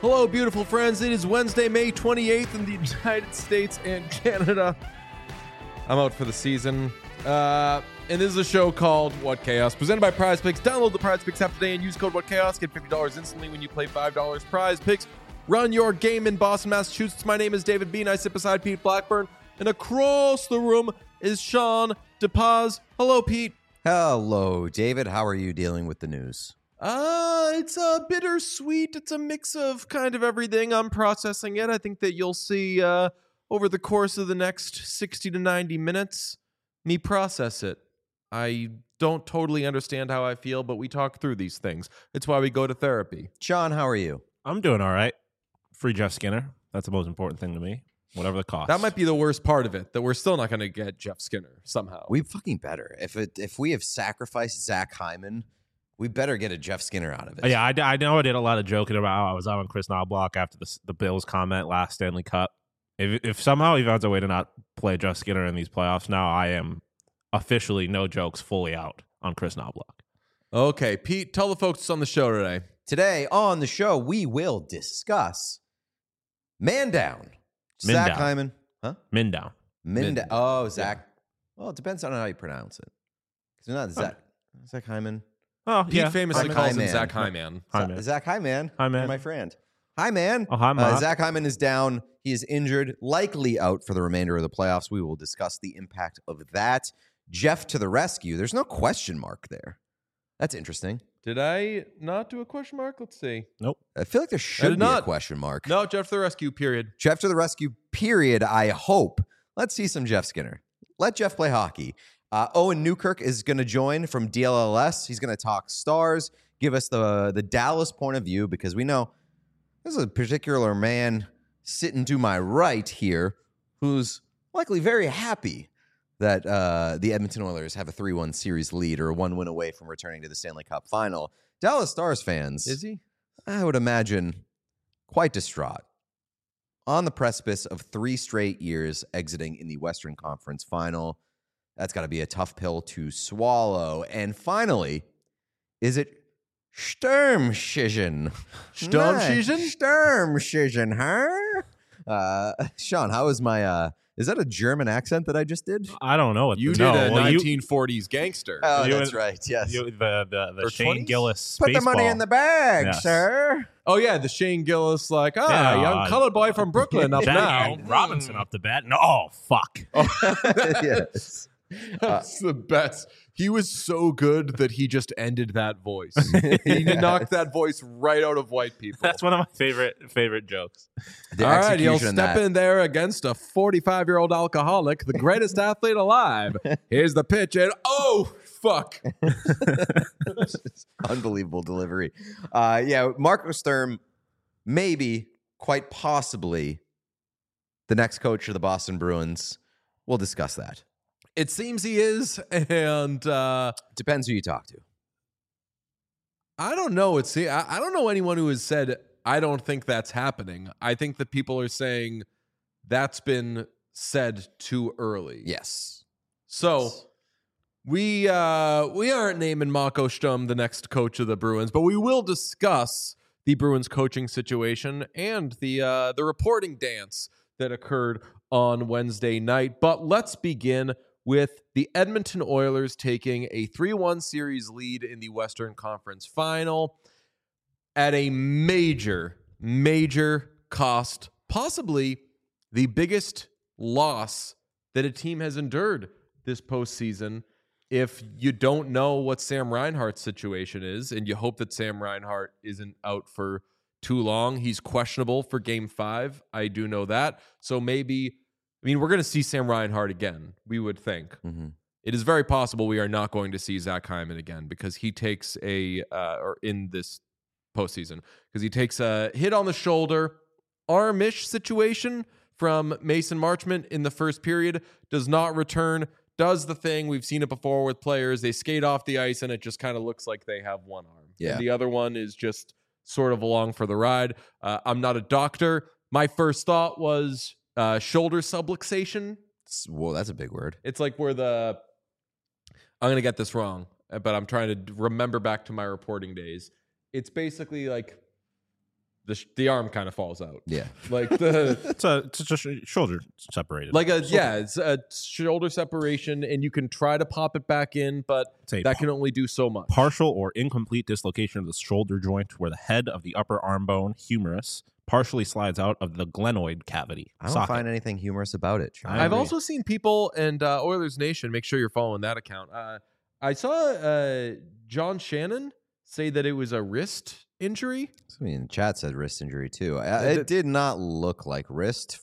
Hello, beautiful friends. It is Wednesday, May 28th in the United States and Canada. I'm out for the season. And this is a show called What Chaos, presented by Prize Picks. Download the Prize Picks app today and use code What Chaos. Get $50 instantly when you play $5. Prize Picks. Run your game in Boston, Massachusetts. My name is David Bean. I sit beside Pete Blackburn. And across the room is Sean DePaz. Hello, Pete. Hello, David. How are you dealing with the news? It's bittersweet. It's a mix of kind of everything. I'm processing it. I think that you'll see over the course of the next 60 to 90 minutes, me process it. I don't totally understand how I feel, but we talk through these things. It's why we go to therapy. Sean, how are you? I'm doing all right. Free Jeff Skinner. That's the most important thing to me. Whatever the cost. That might be the worst part of it, that we're still not going to get Jeff Skinner somehow. We fucking better. If we have sacrificed Zach Hyman, we better get a Jeff Skinner out of it. Yeah, I know I did a lot of joking about how I was out on Chris Knobloch after the Bills comment last Stanley Cup. If somehow he finds a way to not play Jeff Skinner in these playoffs, now I am officially, no jokes, fully out on Chris Knobloch. Okay, Pete, tell the folks on the show today. Today on the show, we will discuss Man Down. Zach Down. Hyman. Huh? Mindown. Min. Oh, Zach. Well, it depends on how you pronounce it. Because not Zach. Zach Hyman. Oh, Pete yeah. famously Hyman. calls him Hyman. Zach Hyman. Hyman. Zach Hyman. Hyman. My friend. Hi, man. Oh, hi, Mark. Zach Hyman is down. He is injured, likely out for the remainder of the playoffs. We will discuss the impact of that. Jeff to the rescue. There's no question mark there. That's interesting. Did I not do a question mark? Let's see. Nope. I feel like there should did be a not. question mark. No, Jeff to the rescue, period. Jeff to the rescue, period. I hope. Let's see some Jeff Skinner. Let Jeff play hockey. Owen Newkirk is going to join from DLLS. He's going to talk Stars, give us the Dallas point of view, because we know there's a particular man sitting to my right here who's likely very happy that the Edmonton Oilers have a 3-1 series lead or a 1 win away from returning to the Stanley Cup final. Dallas Stars fans, Is he? I would imagine, quite distraught. On the precipice of 3 straight years exiting in the Western Conference final. That's got to be a tough pill to swallow. And finally, is it Sturmschigen? Sturmschigen? Sturmschigen, huh? Sean, how is my... is that a German accent that I just did? I don't know what You no, did a well, 1940s gangster. Oh, You- that's right. Yes. the Or Shane 20s? Gillis Put the money baseball. in the bag, Yes. sir. Oh, yeah, the Shane Gillis, like, Yeah, young colored boy from Brooklyn up now. Robinson up the bat. No, oh, fuck. Yes. That's the best. He was so good that he just ended that voice. He knocked that voice right out of white people. That's one of my favorite jokes. The All right, he'll execution of step that. in there against a 45-year-old alcoholic, the greatest athlete alive. Here's the pitch, and oh, fuck. Unbelievable delivery. Marco Sturm, maybe, quite possibly, the next coach of the Boston Bruins. We'll discuss that. It seems he is, and Depends who you talk to. I don't know. I don't know anyone who has said, I don't think that's happening. I think that people are saying that's been said too early. Yes. So we aren't naming Marco Sturm the next coach of the Bruins, but we will discuss the Bruins coaching situation and the reporting dance that occurred on Wednesday night. But let's begin with the Edmonton Oilers taking a 3-1 series lead in the Western Conference Final at a major cost, possibly the biggest loss that a team has endured this postseason. If you don't know what Sam Reinhart's situation is, and you hope that Sam Reinhart isn't out for too long, he's questionable for Game 5. I do know that. So maybe, we're going to see Sam Reinhart again, we would think. Mm-hmm. It is very possible we are not going to see Zach Hyman again because he takes or in this postseason, because he takes a hit on the shoulder, arm-ish situation from Mason Marchment in the first period, does not return, does the thing. We've seen it before with players. They skate off the ice and it just kind of looks like they have one arm. Yeah. And the other one is just sort of along for the ride. I'm not a doctor. My first thought was shoulder subluxation. Whoa, that's a big word. It's like where I'm going to get this wrong, but I'm trying to remember back to my reporting days. It's basically like the arm kind of falls out. Yeah. Like the It's just shoulder separated. it's a shoulder separation, and you can try to pop it back in, but It's a that can only do so much. partial or incomplete dislocation of the shoulder joint where the head of the upper arm bone humerus partially slides out of the glenoid cavity. I don't socket. find anything humorous about it. Sean. I I've agree. also seen people and Oilers Nation. Make sure you're following that account. I saw John Shannon say that it was a wrist injury. I mean, chat said wrist injury too. It did not look like wrist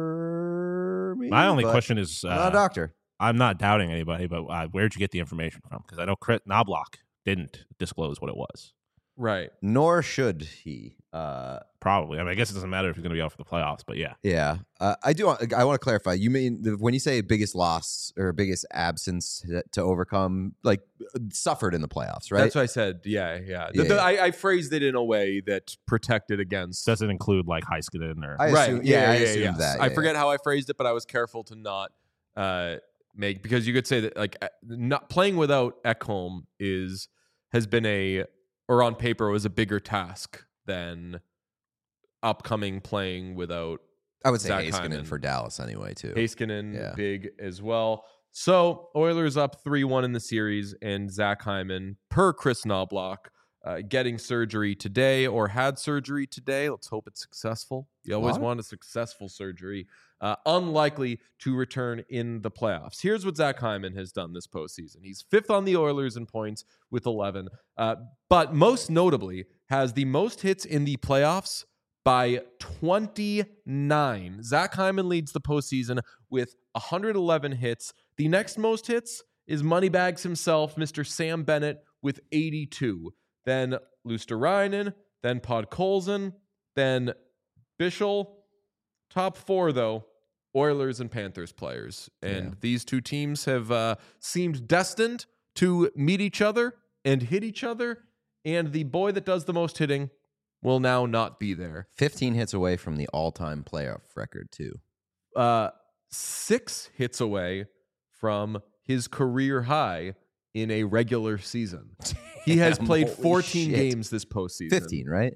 for me. My only but question is, I'm not a doctor. I'm not doubting anybody, but where'd you get the information from? Because I know Chris Knobloch didn't disclose what it was. Right. Nor should he. Probably. I mean, I guess it doesn't matter if he's going to be out for the playoffs, but yeah. Yeah, I do. I want to clarify. You mean when you say biggest loss or biggest absence to overcome, like suffered in the playoffs, right? That's what I said. Yeah. Yeah. I phrased it in a way that protected against. Doesn't include like Heiskanen or I Right. assume, Yeah. I assumed that. I yeah, forget how I phrased it, but I was careful to not make, because you could say that like not playing without Ekholm has been or on paper was a bigger task than upcoming playing without I would say Zach Heiskanen Hyman. for Dallas anyway too. Heiskanen, Yeah. big as well. So Oilers up 3-1 in the series, and Zach Hyman, per Chris Knobloch, getting surgery today or had surgery today. Let's hope it's successful. You always What? want a successful surgery. Unlikely to return in the playoffs. Here's what Zach Hyman has done this postseason. He's 5th on the Oilers in points with 11, but most notably has the most hits in the playoffs by 29. Zach Hyman leads the postseason with 111 hits. The next most hits is Moneybags himself, Mr. Sam Bennett, with 82. Then Luosterainen, then Podkolzin, then Bischel. Top 4, though, Oilers and Panthers players. And these two teams have seemed destined to meet each other and hit each other. And the boy that does the most hitting will now not be there. 15 hits away from the all-time playoff record too. 6 hits away from his career high in a regular season. He has Damn, played holy 14 shit. games this postseason. 15, right?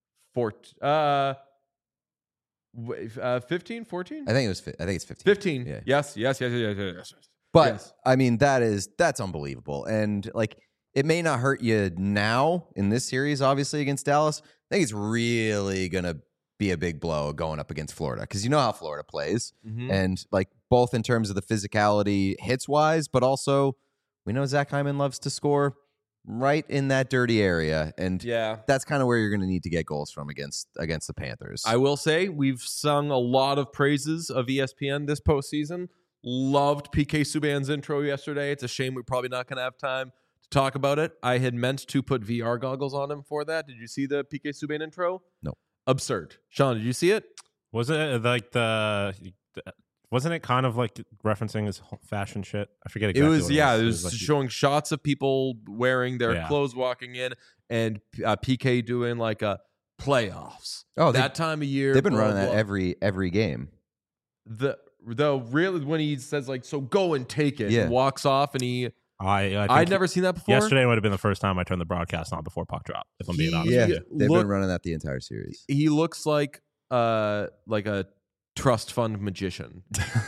15, 14? I think it's 15. 15. Yeah. Yes. But Yes. I mean, that's unbelievable. And like, it may not hurt you now in this series, obviously against Dallas. I think it's really gonna be a big blow going up against Florida, because you know how Florida plays, Mhm. and like both in terms of the physicality hits wise, but also we know Zach Hyman loves to score right in that dirty area, and Yeah. that's kind of where you're going to need to get goals from against the Panthers. I will say we've sung a lot of praises of ESPN this postseason. Loved PK Subban's intro yesterday. It's a shame we're probably not going to have time to talk about it. I had meant to put VR goggles on him for that. Did you see the PK Subban intro? No. Absurd. Sean, did you see it? Was it like wasn't it kind of like referencing his whole fashion shit? I forget exactly. It was, what yeah, it It was like, showing shots of people wearing their Yeah. clothes walking in, and PK doing like a playoffs. Oh, that time of year. they've been blah, running that blah. every game. The really when he says like, so go and take it, Yeah. and walks off, and he. I think I'd never seen that before. Yesterday would have been the first time I turned the broadcast on before puck drop. If I'm being honest Yeah, with you. they've Look- been running that the entire series. He looks like a trust fund magician.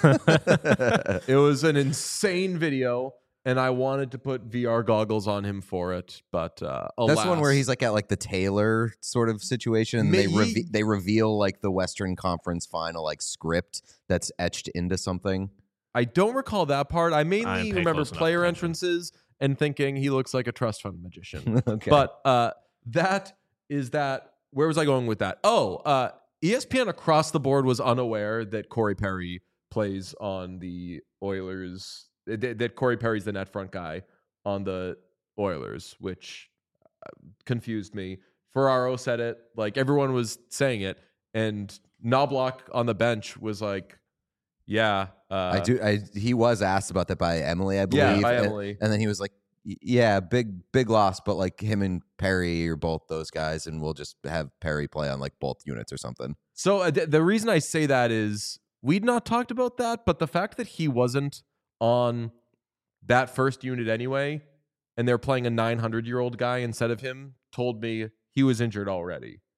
It was an insane video, and I wanted to put VR goggles on him for it, but alas. That's one where he's like at like the Taylor sort of situation, and they reveal like the Western Conference Final like script that's etched into something. I don't recall that part. I I mainly didn't pay remember close enough player attention. entrances and thinking he looks like a trust fund magician. Okay, But that is that. Where was I going with that? Oh, ESPN across the board was unaware that Corey Perry plays on the Oilers. That Corey Perry's the net front guy on the Oilers, which confused me. Ferraro said it, like everyone was saying it, and Knobloch on the bench was like, "Yeah, he was asked about that by Emily, I believe. yeah, by and, Emily." and then he was like, "Yeah, big loss, but like him and Perry are both those guys, and we'll just have Perry play on like both units or something." So the reason I say that is we'd not talked about that, but the fact that he wasn't on that first unit anyway, and they're playing a 900-year-old guy instead of him, told me he was injured already.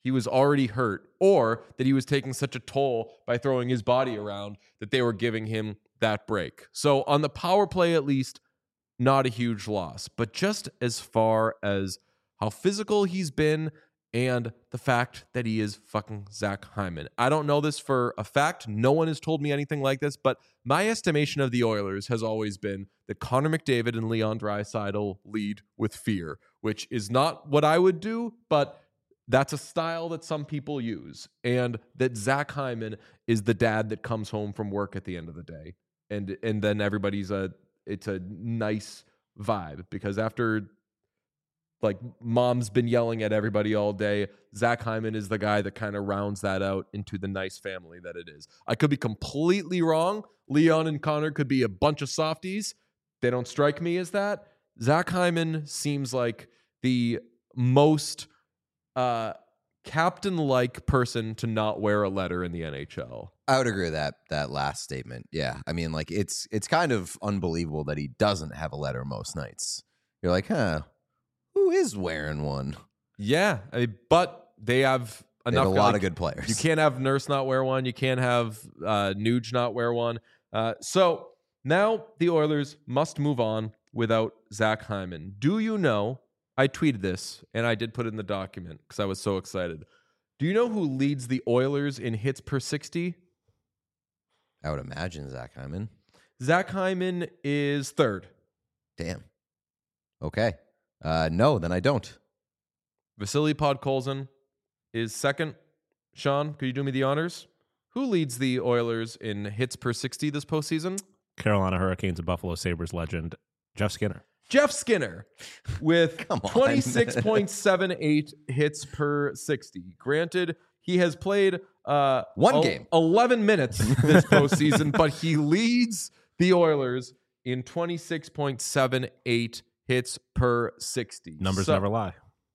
he was already hurt, or that he was taking such a toll by throwing his body around that they were giving him that break. So on the power play, at least, not a huge loss. But just as far as how physical he's been and the fact that he is fucking Zach Hyman. I don't know this for a fact. No one has told me anything like this, but my estimation of the Oilers has always been that Connor McDavid and Leon Draisaitl lead with fear, which is not what I would do, but that's a style that some people use. And that Zach Hyman is the dad that comes home from work at the end of the day. And then everybody's it's a nice vibe, because after like mom's been yelling at everybody all day, Zach Hyman is the guy that kind of rounds that out into the nice family that it is. I could be completely wrong. Leon and Connor could be a bunch of softies. They don't strike me as that. Zach Hyman seems like the most captain-like person to not wear a letter in the NHL. I would agree with that last statement. Yeah. I mean, like, it's kind of unbelievable that he doesn't have a letter most nights. You're like, huh, who is wearing one? Yeah, but they have enough. They have a lot of good players. You can't have Nurse not wear one. You can't have Nuge not wear one. So now the Oilers must move on without Zach Hyman. Do you know, I tweeted this, and I did put it in the document because I was so excited. Do you know who leads the Oilers in hits per 60? I would imagine Zach Hyman. Zach Hyman is third. Damn. Okay. No, then I don't. Vasily Podkolzin is second. Sean, could you do me the honors? Who leads the Oilers in hits per 60 this postseason? Carolina Hurricanes and Buffalo Sabres legend Jeff Skinner. Jeff Skinner with Come on. 26.78 hits per 60. Granted, he has played one game, 11 minutes this postseason, but he leads the Oilers in 26.78 hits per 60. Numbers never lie.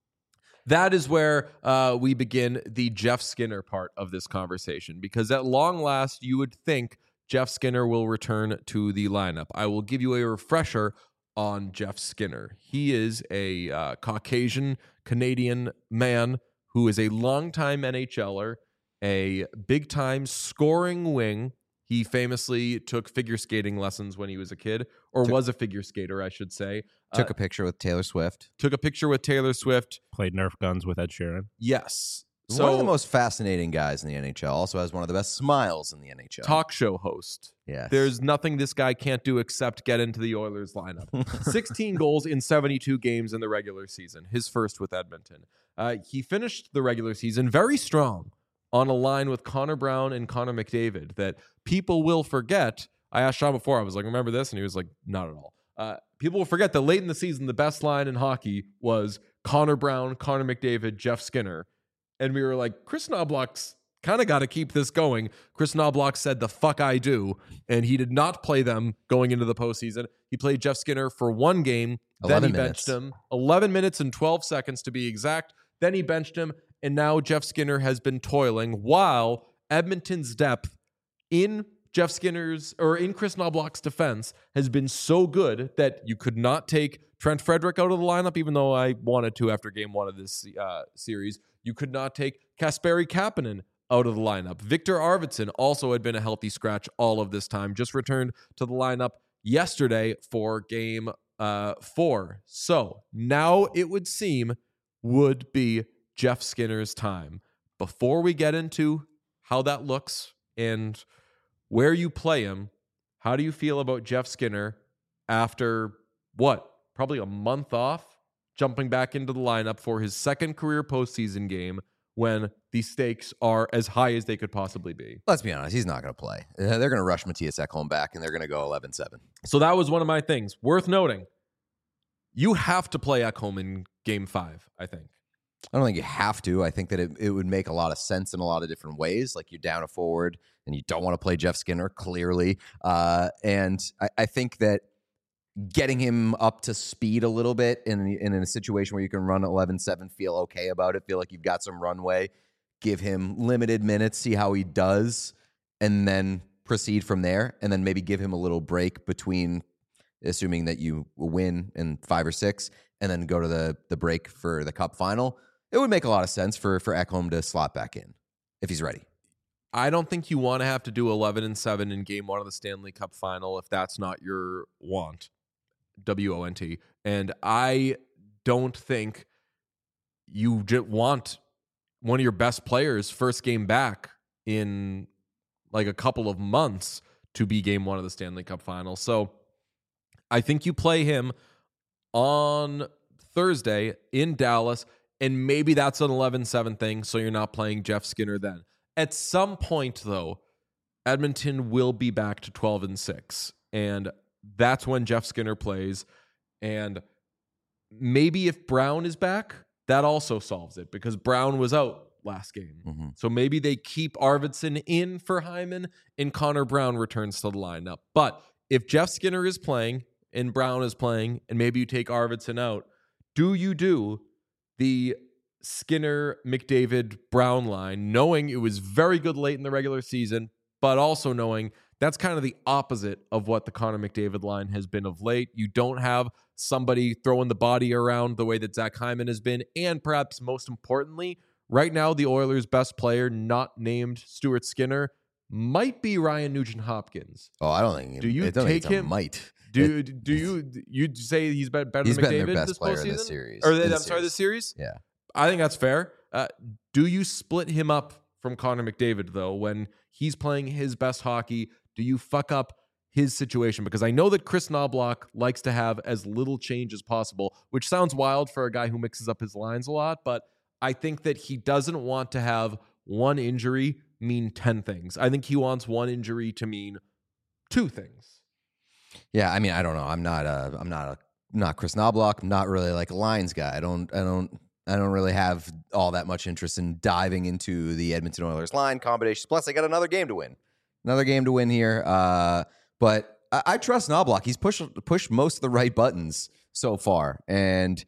That is where we begin the Jeff Skinner part of this conversation, because at long last, you would think Jeff Skinner will return to the lineup. I will give you a refresher on Jeff Skinner. He is a Caucasian Canadian man who is a longtime NHLer, a big-time scoring wing. He famously took figure skating lessons when he was a kid, or was a figure skater, I should say. Took a picture with Taylor Swift. Took a picture with Taylor Swift. Played Nerf guns with Ed Sheeran. Yes. So, one of the most fascinating guys in the NHL. Also has one of the best smiles in the NHL. Talk show host. Yes. There's nothing this guy can't do except get into the Oilers lineup. 16 goals in 72 games in the regular season. His first with Edmonton. He finished the regular season very strong on a line with Connor Brown and Connor McDavid that people will forget. I asked Sean before, I was like, remember this? And he was like, not at all. People will forget that late in the season, the best line in hockey was Connor Brown, Connor McDavid, Jeff Skinner. And we were like, Chris Knobloch's kind of got to keep this going. Chris Knobloch said, the fuck I do. And he did not play them going into the postseason. He played Jeff Skinner for one game. Then he benched him. 11 minutes and 12 seconds to be exact. Then he benched him. And now Jeff Skinner has been toiling while Edmonton's depth in Jeff Skinner's or in Chris Knobloch's defense has been so good that you could not take Trent Frederick out of the lineup, even though I wanted to after game one of this series. You could not take Kasperi Kapanen out of the lineup. Victor Arvidsson also had been a healthy scratch all of this time, just returned to the lineup yesterday for game 4. So now it would seem would be Jeff Skinner's time. Before we get into how that looks and where you play him, how do you feel about Jeff Skinner after probably a month off, jumping back into the lineup for his second career postseason game when the stakes are as high as they could possibly be? Let's be honest, he's not going to play. They're going to rush Matthias Ekholm back, and they're going to go 11-7. So that was one of my things. Worth noting, you have to play Ekholm in Game 5, I think. I don't think you have to. I think that it would make a lot of sense in a lot of different ways. Like, you're down a forward, and you don't want to play Jeff Skinner, clearly. And I think that getting him up to speed a little bit in a situation where you can run 11-7, feel okay about it, feel like you've got some runway, give him limited minutes, see how he does, and then proceed from there, and then maybe give him a little break between, assuming that you win in 5 or 6, and then go to the break for the Cup final. it would make a lot of sense for Ekholm to slot back in if he's ready. I don't think you want to have to do 11-7 in game 1 of the Stanley Cup final if that's not your want. WONT. And I don't think you want one of your best players first game back in like a couple of months to be game 1 of the Stanley Cup final. So I think you play him on Thursday in Dallas, and maybe that's an 11-7 thing, so you're not playing Jeff Skinner then. At some point, though, Edmonton will be back to 12-6, and that's when Jeff Skinner plays. And maybe if Brown is back, that also solves it, because Brown was out last game. Mm-hmm. So maybe they keep Arvidsson in for Hyman, and Connor Brown returns to the lineup. But if Jeff Skinner is playing and Brown is playing, and maybe you take Arvidsson out, do you do the Skinner, McDavid, Brown line, knowing it was very good late in the regular season, but also knowing that's kind of the opposite of what the Connor McDavid line has been of late? You don't have somebody throwing the body around the way that Zach Hyman has been. And perhaps most importantly, right now, the Oilers' best player, not named Stuart Skinner, might be Ryan Nugent-Hopkins. Oh, I don't think. Do you take him? Might. Do you say he's better than He's McDavid been their best this player postseason? in this series. Or this series? Yeah. I think that's fair. Do you split him up from Connor McDavid, though, when he's playing his best hockey? Do you fuck up his situation? Because I know that Chris Knobloch likes to have as little change as possible, which sounds wild for a guy who mixes up his lines a lot, but I think that he doesn't want to have one injury mean 10 things. I think he wants one injury to mean 2 things. Yeah, I mean, I don't know. I'm not Chris Knobloch. I'm not really like a lines guy. I don't really have all that much interest in diving into the Edmonton Oilers line combinations. Plus, I got another game to win here. But I trust Knobloch. He's pushed most of the right buttons so far, and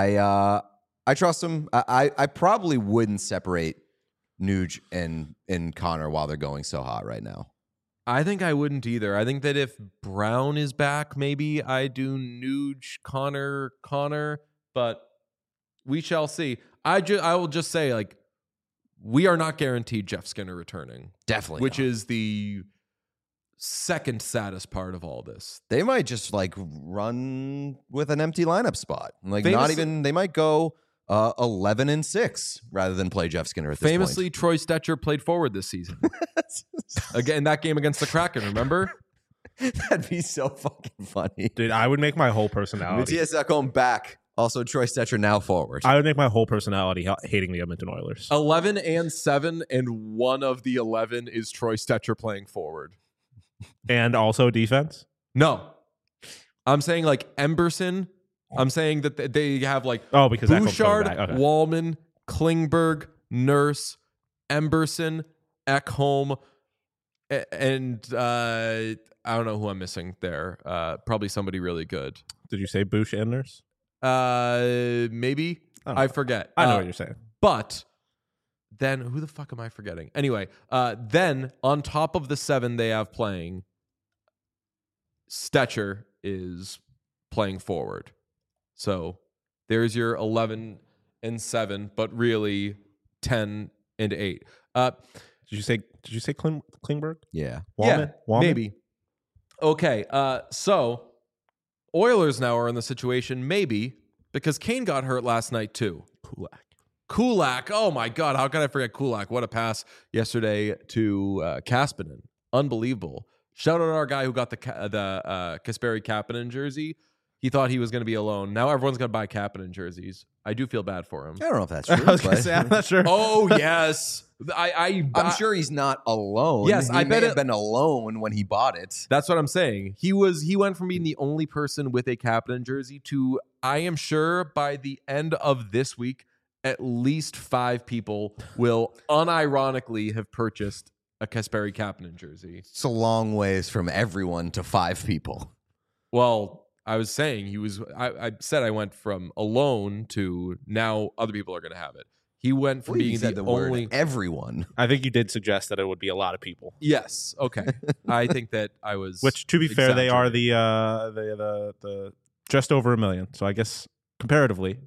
I trust him. I probably wouldn't separate Nuge and Connor while they're going so hot right now. I think I wouldn't either. I think that if Brown is back, maybe I do Nuge, Connor, but we shall see. I will just say, like, we are not guaranteed Jeff Skinner returning. Definitely Which not. is the second saddest part of all this. They might just like run with an empty lineup spot. Like they might go 11-6 rather than play Jeff Skinner at this Famously, point. Troy Stetcher played forward this season. Again, that game against the Kraken, remember? That'd be so fucking funny. Dude, I would make my whole personality. Matthias Ekholm back. Also, Troy Stetcher now forward. I would make my whole personality hating the Edmonton Oilers. 11-7, and one of the 11 is Troy Stetcher playing forward. And also defense? No. I'm saying like Emberson. I'm saying that they have like because Bouchard, okay. Wallman, Klingberg, Nurse, Emberson, Ekholm, and I don't know who I'm missing there. Probably somebody really good. Did you say Bush and Nurse? Maybe. I forget. I know what you're saying. But then who the fuck am I forgetting? Anyway, then on top of the 7 they have playing, Stetcher is playing forward. So there's your 11-7, but really 10-8. Did you say Klingberg? Yeah. Wallman? Maybe. Okay, so Oilers now are in the situation, maybe, because Kane got hurt last night too. Kulak. Oh my God, how could I forget Kulak? What a pass yesterday to Kapanen. Unbelievable. Shout out to our guy who got the Kasperi Kapanen jersey. He thought he was going to be alone. Now everyone's going to buy Kapanen jerseys. I do feel bad for him. I don't know if that's true. I was going to say, I'm not sure. Oh, yes. I'm sure he's not alone. Yes, I bet have been alone when he bought it. That's what I'm saying. He went from being the only person with a Kapanen jersey to, I am sure by the end of this week, at least 5 people will unironically have purchased a Kasperi Kapanen jersey. It's a long ways from everyone to 5 people. Well, I was saying I said I went from alone to now other people are going to have it. He went from being the only word everyone. I think you did suggest that it would be a lot of people. Yes. Okay. I think that I was. Which, to be fair, they are the just over 1 million. So I guess comparatively,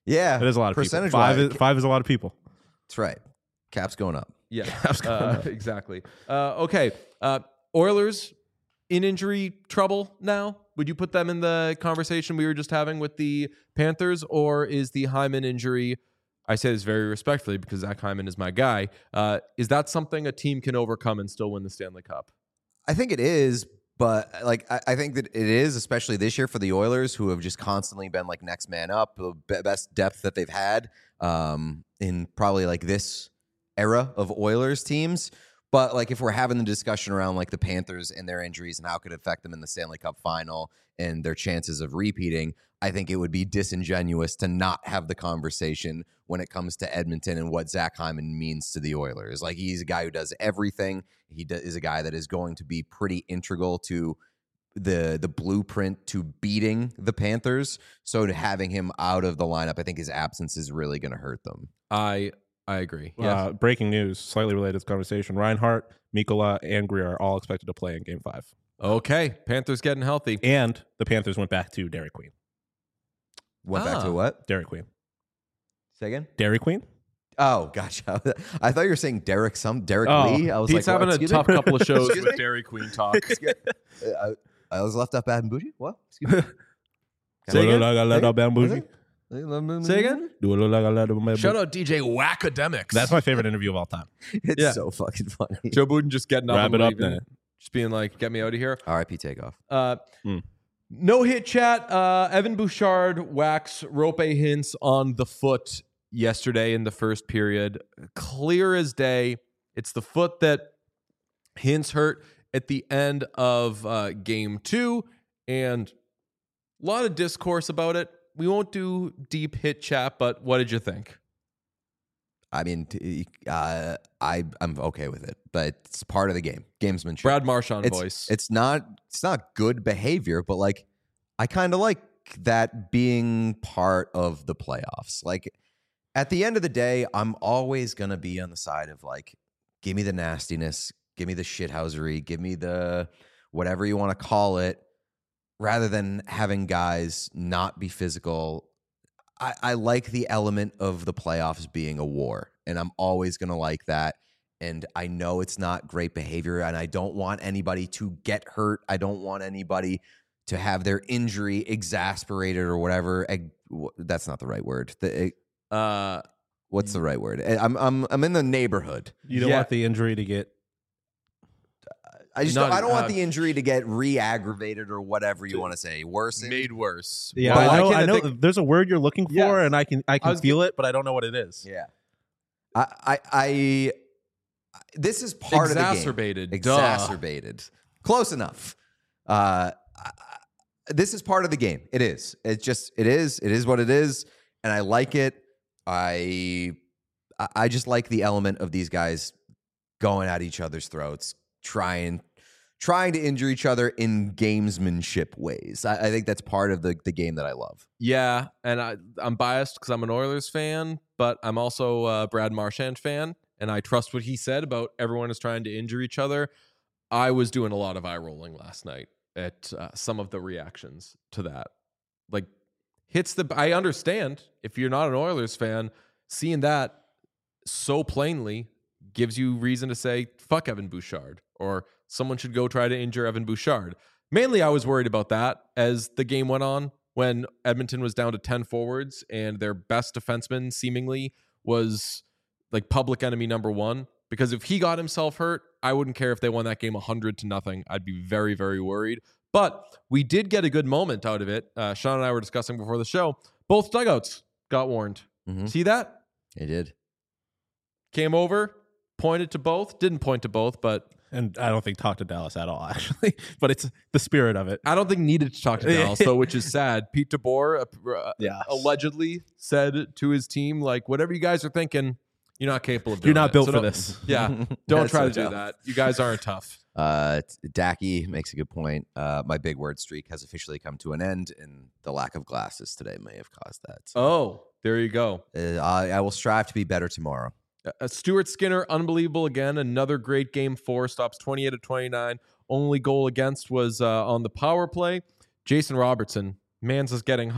Yeah, It is a lot of people. percentage-wise. Five is a lot of people. That's right. Cap's going up. Yeah, Caps going up. exactly. Okay, Oilers in injury trouble now. Would you put them in the conversation we were just having with the Panthers, or is the Hyman injury? I say this very respectfully because Zach Hyman is my guy. Is that something a team can overcome and still win the Stanley Cup? I think it is, but like I think that it is, especially this year for the Oilers, who have just constantly been like next man up, the best depth that they've had in probably like this era of Oilers teams. But like if we're having the discussion around like the Panthers and their injuries and how it could affect them in the Stanley Cup final and their chances of repeating, I think it would be disingenuous to not have the conversation when it comes to Edmonton and what Zach Hyman means to the Oilers. Like he's a guy who does everything. He is a guy that is going to be pretty integral to the blueprint to beating the Panthers. So to having him out of the lineup, I think his absence is really going to hurt them. I agree. Yes. Breaking news, slightly related to this conversation. Reinhart, Mikkola, and Greer are all expected to play in Game 5. Okay, Panthers getting healthy. And the Panthers went back to Dairy Queen. Went back to what? Dairy Queen. Say again? Dairy Queen? Oh, gotcha. I thought you were saying Derek Oh, Lee. I was Pete's like, having what? a tough couple of shows Excuse with me? Dairy Queen talk. I was left up bad and bougie? What? Excuse me? Say again? Say again? Shout out DJ Wackademics. That's my favorite interview of all time. It's Yeah. so fucking funny. Joe Budden just getting up Wrap and it up leaving, then. just being like, get me out of here. R.I.P. Takeoff. No hit chat. Evan Bouchard whacks Rope Hintz on the foot yesterday in the first period. Clear as day. It's the foot that Hintz hurt at the end of game 2. And a lot of discourse about it. We won't do deep hit chat, but what did you think? I mean, I'm okay with it, but it's part of the game. Gamesmanship. Brad Marchand it's, voice. It's not good behavior, but like I kind of like that being part of the playoffs. Like at the end of the day, I'm always gonna be on the side of like, give me the nastiness, give me the shithousery, give me the whatever you want to call it, rather than having guys not be physical. I like the element of the playoffs being a war, and I'm always going to like that. And I know it's not great behavior, and I don't want anybody to get hurt. I don't want anybody to have their injury exasperated or whatever. That's not the right word. What's the right word? I'm in the neighborhood. You don't want the injury to get... I don't want the injury to get re-aggravated or whatever you want to say. Worsened. Made worse. Yeah, But I know think- there's a word you're looking for, Yes. and I can feel it, but I don't know what it is. Yeah. I this is part Exacerbated. of the game. Exacerbated. Close enough. This is part of the game. It is. It is what it is, and I like it. I just like the element of these guys going at each other's throats, trying to injure each other in gamesmanship ways. I think that's part of the game that I love. Yeah, and I'm biased because I'm an Oilers fan, but I'm also a Brad Marchand fan, and I trust what he said about everyone is trying to injure each other. I was doing a lot of eye rolling last night at some of the reactions to that. Like, I understand if you're not an Oilers fan, seeing that so plainly gives you reason to say, fuck Evan Bouchard, or someone should go try to injure Evan Bouchard. Mainly, I was worried about that as the game went on, when Edmonton was down to 10 forwards and their best defenseman seemingly was like public enemy number 1. Because if he got himself hurt, I wouldn't care if they won that game 100-0. I'd be very, very worried. But we did get a good moment out of it. Sean and I were discussing before the show. Both dugouts got warned. Mm-hmm. See that? It did. Came over, pointed to both. Didn't point to both, but... And I don't think talk to Dallas at all, actually. But it's the spirit of it. I don't think needed to talk to Dallas, though, which is sad. Pete DeBoer allegedly said to his team, like, whatever you guys are thinking, you're not capable of doing You're not it. built So for don't- this. Yeah, don't That's try so to do tough. that. You guys aren't tough. Dacky makes a good point. My big word streak has officially come to an end, and the lack of glasses today may have caused that. So, Oh, there you go. I will strive to be better tomorrow. Stuart Skinner, unbelievable again. Another great game 4, stops 28 of 29. Only goal against was on the power play. Jason Robertson, man's is getting hot.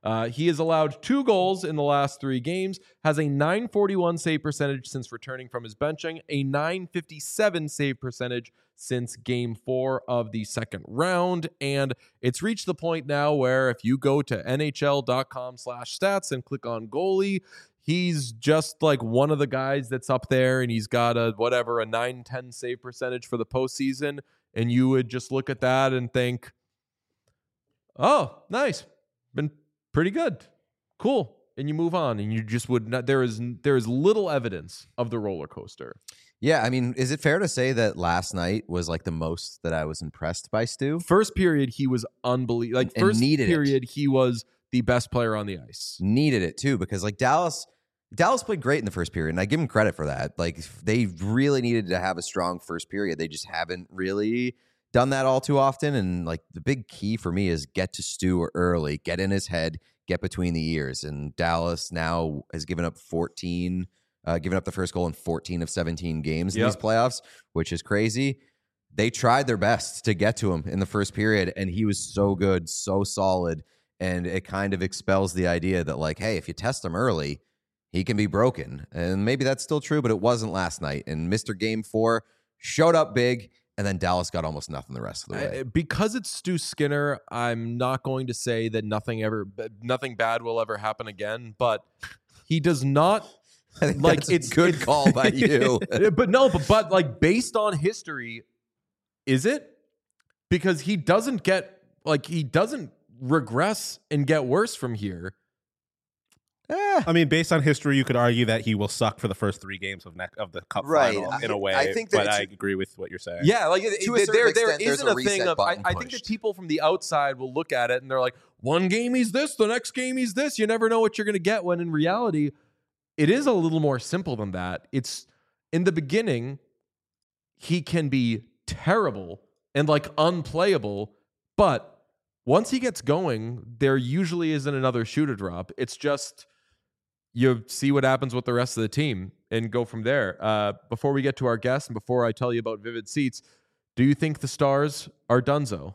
He has allowed 2 goals in the last 3 games, has a .941 save percentage since returning from his benching, a .957 save percentage since game 4 of the second round. And it's reached the point now where if you go to nhl.com/stats and click on goalie, he's just like one of the guys that's up there, and he's got a 910 save percentage for the postseason. And you would just look at that and think, oh, nice. Been pretty good. Cool. And you move on, and you just would not. There is little evidence of the roller coaster. Yeah, I mean, is it fair to say that last night was like the most that I was impressed by Stu? First period, he was unbelievable. Like, And first needed period, he was the best player on the ice. Needed it too, because like Dallas played great in the first period, and I give him credit for that. Like, they really needed to have a strong first period. They just haven't really done that all too often. And like, the big key for me is get to Stu early, get in his head, get between the ears. And Dallas now has given up the first goal in 14 of 17 games in these playoffs, which is crazy. They tried their best to get to him in the first period, and he was so good, so solid. And it kind of expels the idea that, like, hey, if you test him early, he can be broken. And maybe that's still true, but it wasn't last night. And Mr. Game 4 showed up big, and then Dallas got almost nothing the rest of the way. Because it's Stu Skinner, I'm not going to say that nothing bad will ever happen again, but he does not. I think Like, that's a good call by you. but like, based on history, is it? Because he doesn't regress and get worse from here. I mean, based on history, you could argue that he will suck for the first 3 games of the Cup final in a way. I think that but I agree with what you're saying. Yeah, like To a certain there extent, there's isn't a a thing reset of. I button think that pushed. people from the outside will look at it and they're like, one game he's this, the next game he's this. You never know what you're going to get. When in reality, it is a little more simple than that. It's in the beginning, he can be terrible and like unplayable, but once he gets going, there usually isn't another shooter drop. It's just you see what happens with the rest of the team and go from there. Before we get to our guests and before I tell you about Vivid Seats, do you think the Stars are donezo?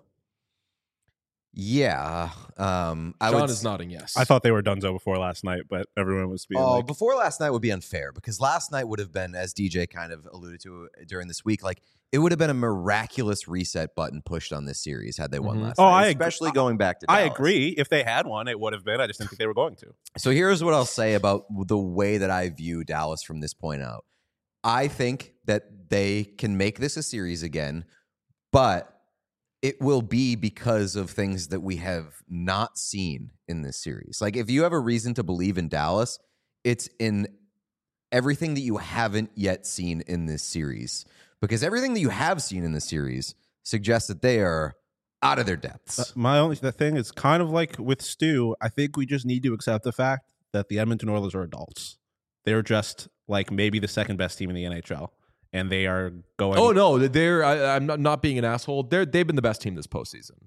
Yeah. John is nodding yes. I thought they were donezo before last night, but everyone was being like, before last night would be unfair, because last night would have been, as DJ kind of alluded to during this week, like, it would have been a miraculous reset button pushed on this series had they won last night, especially going back to Dallas. I agree. If they had one, it would have been. I just didn't think they were going to. So here's what I'll say about the way that I view Dallas from this point out. I think that they can make this a series again, but it will be because of things that we have not seen in this series. Like, if you have a reason to believe in Dallas, it's in everything that you haven't yet seen in this series. Because everything that you have seen in this series suggests that they are out of their depths. The thing is kind of like with Stu. I think we just need to accept the fact that the Edmonton Oilers are adults. They're just like maybe the second best team in the NHL. And they are going. Oh no, I'm not being an asshole. They've been the best team this postseason.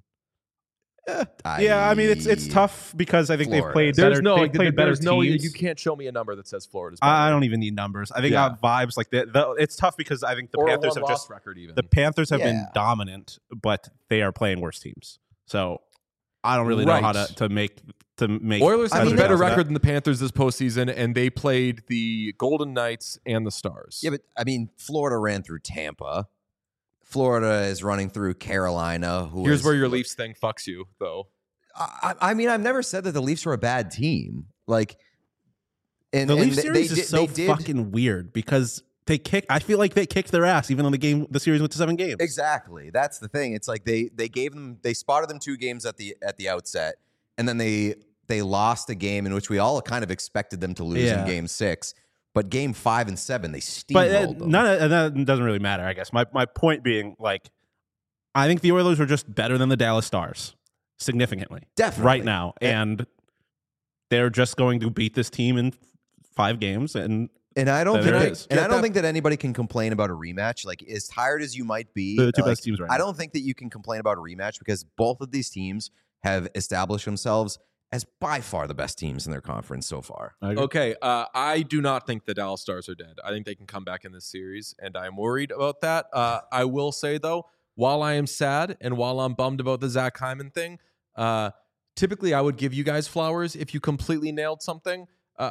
Yeah, I mean it's tough because I think Florida. they've played There's better. no, They've played better teams. you can't show me a number that says Florida's better. I don't even need numbers. I think I have vibes like that. It's tough because I think the or Panthers a have just record even. the Panthers have been dominant, but they are playing worse teams. So I don't really know how to make. Oilers have a better record record than the Panthers this postseason, and they played the Golden Knights and the Stars. Yeah, but I mean, Florida ran through Tampa. Florida is running through Carolina. Here's where your Leafs thing fucks you, though. I mean, I've never said that the Leafs were a bad team. Like, and the Leafs and series is so fucking weird because they kick. I feel like they kicked their ass even though the series went to 7 games. Exactly, that's the thing. It's like they spotted them 2 games at the outset, and then they lost a game in which we all kind of expected them to lose in Game 6. But Game 5 and 7, they steamrolled them. That doesn't really matter, I guess. My point being, like, I think the Oilers are just better than the Dallas Stars. Significantly. Definitely. Right now. And they're just going to beat this team in 5 games. And I don't think that anybody can complain about a rematch. Like, as tired as you might be, the 2 best teams right now. I don't think that you can complain about a rematch because both of these teams have established themselves as by far the best teams in their conference so far. Okay, I do not think the Dallas Stars are dead. I think they can come back in this series, and I'm worried about that. I will say, though, while I am sad and while I'm bummed about the Zach Hyman thing, typically I would give you guys flowers if you completely nailed something.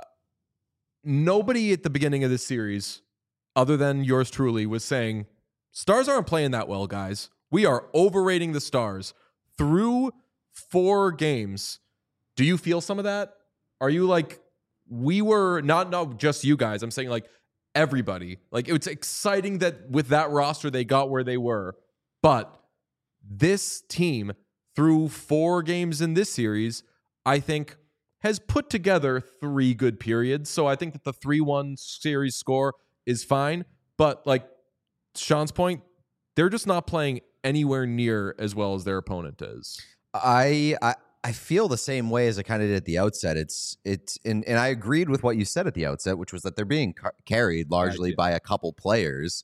Nobody at the beginning of this series, other than yours truly, was saying, Stars aren't playing that well, guys. We are overrating the Stars. Through 4 games, do you feel some of that? Are you like, we were, not just you guys, I'm saying like everybody. Like, it's exciting that with that roster they got where they were. But this team, through 4 games in this series, I think has put together 3 good periods. So I think that the 3-1 series score is fine. But like Sean's point, they're just not playing anywhere near as well as their opponent is. I feel the same way as I kind of did at the outset. And I agreed with what you said at the outset, which was that they're being carried largely by a couple players.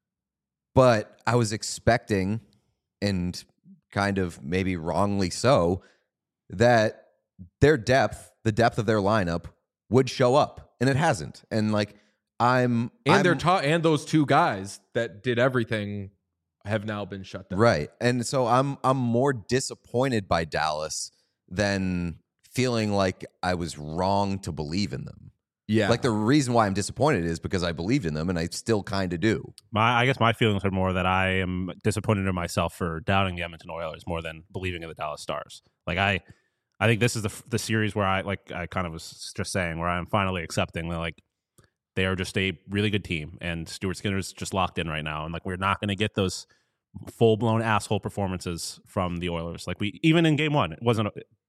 But I was expecting, and kind of maybe wrongly so, that their depth, the depth of their lineup, would show up, and it hasn't. And like and those 2 guys that did everything have now been shut down. Right. And so I'm more disappointed by Dallas than feeling like I was wrong to believe in them. Yeah. Like the reason why I'm disappointed is because I believed in them, and I still kind of do. I guess my feelings are more that I am disappointed in myself for doubting the Edmonton Oilers more than believing in the Dallas Stars. Like I think this is the series where I kind of was just saying, where I'm finally accepting that like they are just a really good team, and Stuart Skinner's just locked in right now, and like we're not going to get those full blown asshole performances from the Oilers. Like even in Game 1, it wasn't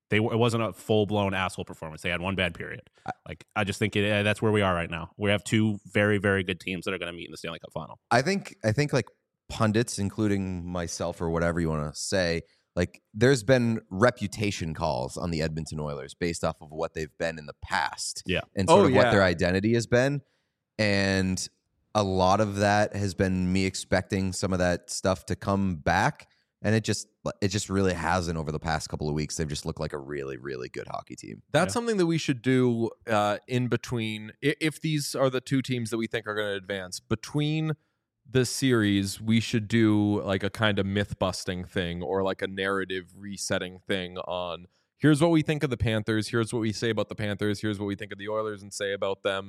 a full blown asshole performance. They had 1 bad period. I just think that's where we are right now. We have 2 very, very good teams that are going to meet in the Stanley Cup final. I think like pundits, including myself or whatever you want to say, like there's been reputation calls on the Edmonton Oilers based off of what they've been in the past. Yeah. And sort of what their identity has been. And a lot of that has been me expecting some of that stuff to come back. And it just really hasn't over the past couple of weeks. They've just looked like a really, really good hockey team. That's something that we should do in between. If these are the 2 teams that we think are going to advance, between the series, we should do like a kind of myth-busting thing or like a narrative resetting thing on here's what we think of the Panthers, here's what we say about the Panthers, here's what we think of the Oilers and say about them.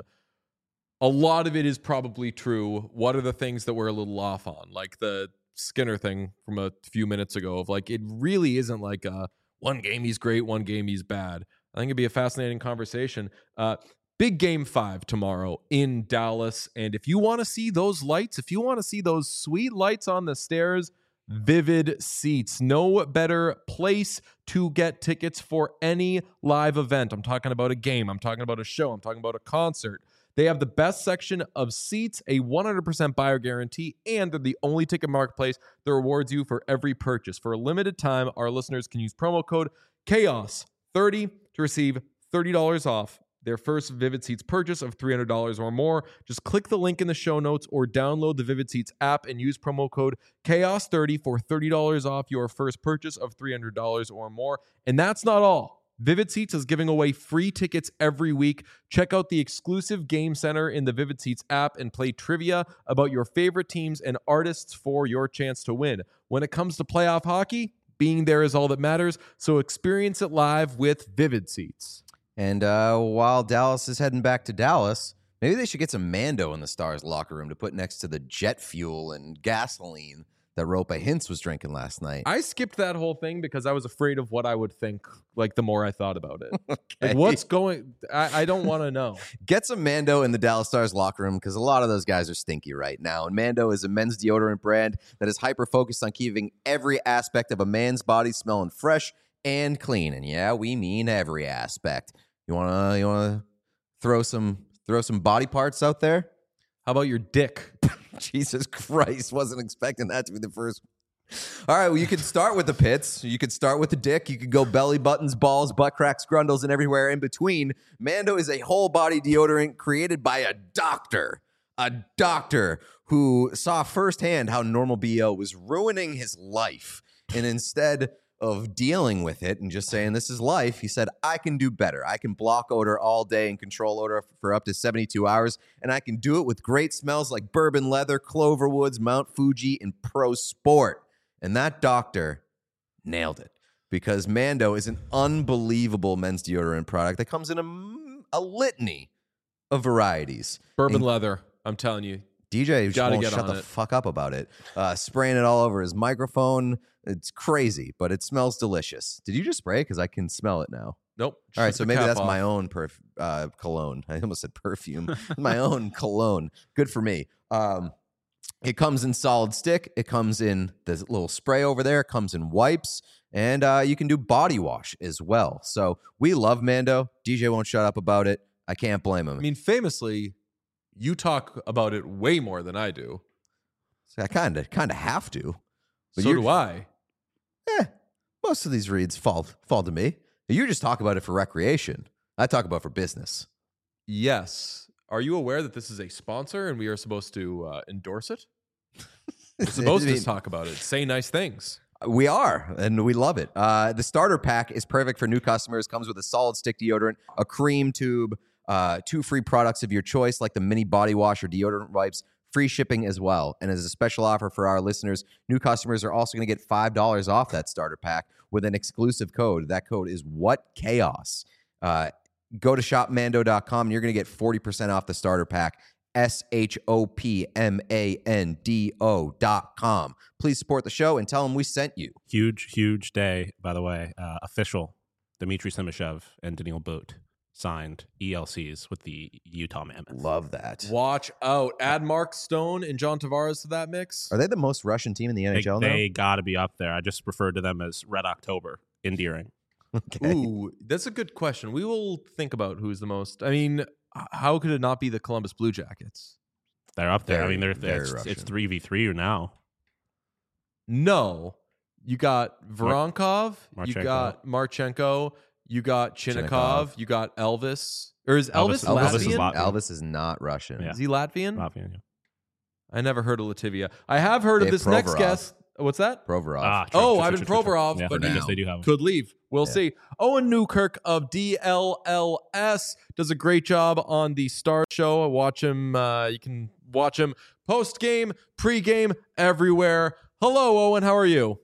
A lot of it is probably true. What are the things that we're a little off on? Like the Skinner thing from a few minutes ago of like, it really isn't like one game he's great, one game he's bad. I think it'd be a fascinating conversation. Big Game 5 tomorrow in Dallas. And if you want to see those lights, if you want to see those sweet lights on the stairs, Vivid Seats. No better place to get tickets for any live event. I'm talking about a game. I'm talking about a show. I'm talking about a concert. They have the best section of seats, a 100% buyer guarantee, and they're the only ticket marketplace that rewards you for every purchase. For a limited time, our listeners can use promo code CHAOS30 to receive $30 off their first Vivid Seats purchase of $300 or more. Just click the link in the show notes or download the Vivid Seats app and use promo code CHAOS30 for $30 off your first purchase of $300 or more. And that's not all. Vivid Seats is giving away free tickets every week. Check out the exclusive Game Center in the Vivid Seats app and play trivia about your favorite teams and artists for your chance to win. When it comes to playoff hockey, being there is all that matters, so experience it live with Vivid Seats. And while Dallas is heading back to Dallas, maybe they should get some Mando in the Stars locker room to put next to the jet fuel and gasoline that Roope Hintz was drinking last night. I skipped that whole thing because I was afraid of what I would think, like, the more I thought about it. Okay. Like, what's going... I don't want to know. Get some Mando in the Dallas Stars locker room because a lot of those guys are stinky right now. And Mando is a men's deodorant brand that is hyper-focused on keeping every aspect of a man's body smelling fresh and clean. And yeah, we mean every aspect. You wanna throw some body parts out there? How about your dick? Jesus Christ, wasn't expecting that to be the first. All right, well, you can start with the pits. You could start with the dick. You could go belly buttons, balls, butt cracks, grundles, and everywhere in between. Mando is a whole body deodorant created by a doctor who saw firsthand how normal BO was ruining his life. And instead of dealing with it and just saying this is life, he said, I can do better. I can block odor all day and control odor for up to 72 hours, and I can do it with great smells like bourbon leather, Cloverwoods, Mount Fuji, and Pro Sport. And that doctor nailed it because Mando is an unbelievable men's deodorant product that comes in a litany of varieties. Bourbon And leather. I'm telling you. DJ just Gotta won't get shut on the it. fuck up about it. Spraying it all over his microphone. It's crazy, but it smells delicious. Did you just spray it? Because I can smell it now. Nope. All right, Shut so the maybe cap that's off. my own cologne. I almost said perfume. My own cologne. Good for me. It comes in solid stick. It comes in the little spray over there. It comes in wipes. And you can do body wash as well. So we love Mando. DJ won't shut up about it. I can't blame him. I mean, famously, you talk about it way more than I do. So I kind of have to. But So you're- do I. Most of these reads fall to me. You just talk about it for recreation. I talk about it for business. Yes. Are you aware that this is a sponsor and we are supposed to endorse it? We're supposed to talk about it. Say nice things. We are, and we love it. The starter pack is perfect for new customers. Comes with a solid stick deodorant, a cream tube, 2 free products of your choice, like the mini body wash or deodorant wipes, free shipping as well. And as a special offer for our listeners, new customers are also going to get $5 off that starter pack with an exclusive code. That code is WhatChaos. Go to shopmando.com and you're going to get 40% off the starter pack. shopmando.com. Please support the show and tell them we sent you. Huge day, by the way. Official. Dmitry Simashev and Daniil Boot signed ELCs with the Utah Mammoth. Love that. Watch out. Add Mark Stone and John Tavares to that mix. Are they the most Russian team in the NHL now? They got to be up there. I just referred to them as Red October. Endearing. Okay. Ooh, that's a good question. We will think about who's the most. I mean, how could it not be the Columbus Blue Jackets? They're up there. Very, I mean, very it's Russian. 3v3 now. No. You got Voronkov, you Marchenko. got Marchenko, you got Chinnikov, Chinnikov. you got Elvis. Or is Elvis- Elvis, Elvis is Latvian? Latvian. Elvis is not Russian. Yeah. Is he Latvian? Latvian, yeah. I never heard of Latvia. I have heard of They have this next Provorov. guest. What's that? Provorov. Oh, Ivan Provorov, Yeah, but I guess now they do have him. Could leave. We'll Yeah. see. Owen Newkirk of DLLS does a great job on the Star Show. Watch him. You can watch him post game, pre game, everywhere. Hello, Owen. How are you?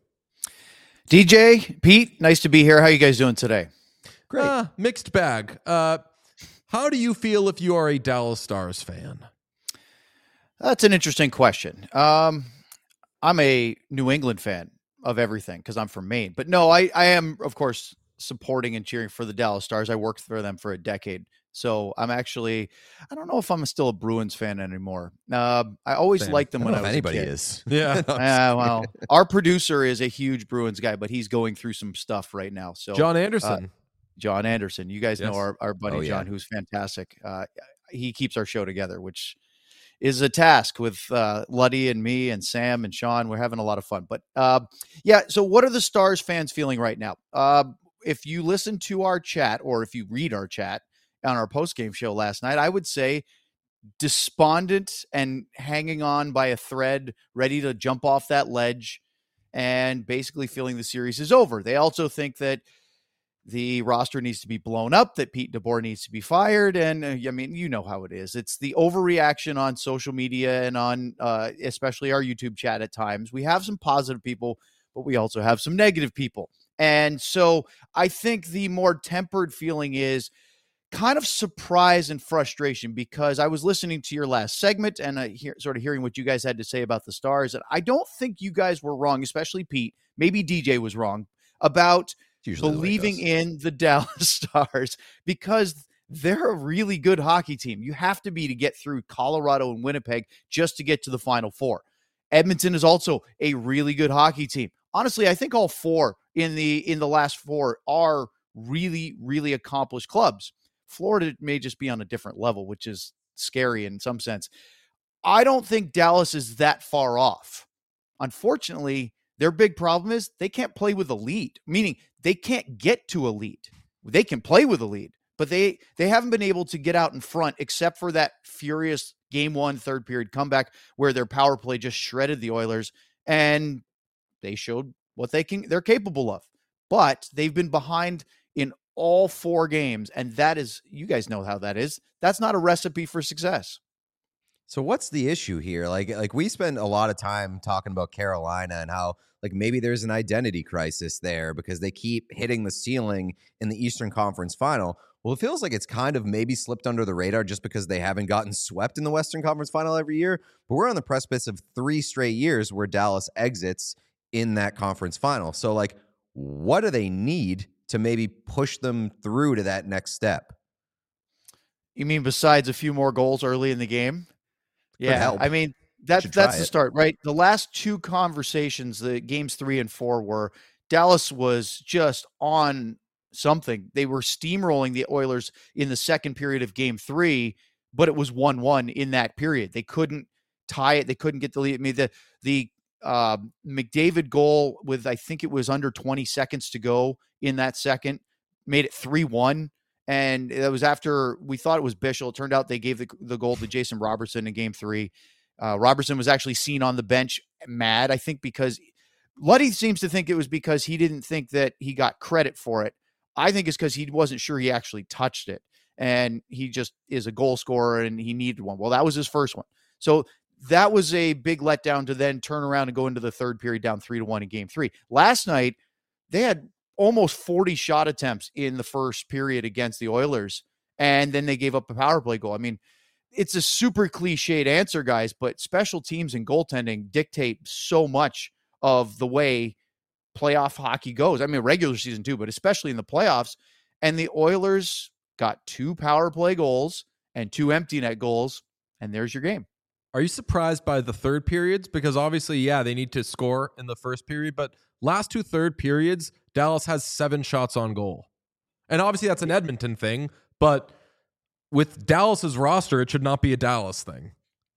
DJ, Pete, nice to be here. How you guys doing today? Great. Mixed bag. How do you feel if you are a Dallas Stars fan? That's an interesting question. I'm a New England fan of everything because I'm from Maine. But no, I am, of course, supporting and cheering for the Dallas Stars. I worked for them for a decade. So I'm actually, I don't know if I'm still a Bruins fan anymore. I always Same. liked I them don't when know I if was anybody a kid. is. Yeah. Well, our producer is a huge Bruins guy, but he's going through some stuff right now. So John Anderson. John Anderson, you guys Yes. know our buddy Oh, yeah. John, who's fantastic. He keeps our show together, which is a task with Luddy and me and Sam and Sean. We're having a lot of fun. But yeah, so what are the Stars fans feeling right now? If you listen to our chat or if you read our chat on our post-game show last night, I would say despondent and hanging on by a thread, ready to jump off that ledge and basically feeling the series is over. They also think that the roster needs to be blown up, that Pete DeBoer needs to be fired. And I mean, you know how it is. It's the overreaction on social media and on especially our YouTube chat at times. We have some positive people, but we also have some negative people. And so I think the more tempered feeling is kind of surprise and frustration, because I was listening to your last segment and sort of hearing what you guys had to say about the Stars. And I don't think you guys were wrong, especially Pete. Maybe DJ was wrong about Usually the way it believing goes. in the Dallas Stars, because they're a really good hockey team. You have to be to get through Colorado and Winnipeg just to get to the Final Four. Edmonton is also a really good hockey team. Honestly, I think all four in the last four are really, really accomplished clubs. Florida may just be on a different level, which is scary in some sense. I don't think Dallas is that far off. Unfortunately, their big problem is they can't play with a lead, meaning they can't get to a lead. They can play with a lead, but they haven't been able to get out in front except for that furious game one, third period comeback where their power play just shredded the Oilers, and they showed what they're capable of. But they've been behind in all four games, and that is, you guys know how that is. That's not a recipe for success. So what's the issue here? Like we spend a lot of time talking about Carolina and how like maybe there's an identity crisis there because they keep hitting the ceiling in the Eastern Conference Final. Well, it feels like it's kind of maybe slipped under the radar just because they haven't gotten swept in the Western Conference Final every year. But we're on the precipice of 3 straight years where Dallas exits in that conference final. So like, what do they need to maybe push them through to that next step? You mean besides a few more goals early in the game? Yeah, help. I mean that's try the it. start, right? The last 2 conversations, the games 3 and 4, were Dallas was just on something. They were steamrolling the Oilers in the second period of game 3, but it was 1-1 in that period. They couldn't tie it. They couldn't get the lead. I mean, the McDavid goal with, I think it was under 20 seconds to go in that second, made it 3-1. And that was after we thought it was Bichel. It turned out they gave the goal to Jason Robertson in game 3. Robertson was actually seen on the bench mad, I think, because Luddy seems to think it was because he didn't think that he got credit for it. I think it's because he wasn't sure he actually touched it. And he just is a goal scorer and he needed one. Well, that was his first one. So that was a big letdown to then turn around and go into the third period down 3-1 in game 3. Last night, they had almost 40 shot attempts in the first period against the Oilers, and then they gave up a power play goal. I mean, it's a super cliched answer, guys, but special teams and goaltending dictate so much of the way playoff hockey goes. I mean, regular season too, but especially in the playoffs. And the Oilers got 2 power play goals and 2 empty net goals, and there's your game. Are you surprised by the third periods? Because obviously, yeah, they need to score in the first period, but last 2 third periods, Dallas has 7 shots on goal. And obviously that's an Edmonton thing, but with Dallas's roster, it should not be a Dallas thing.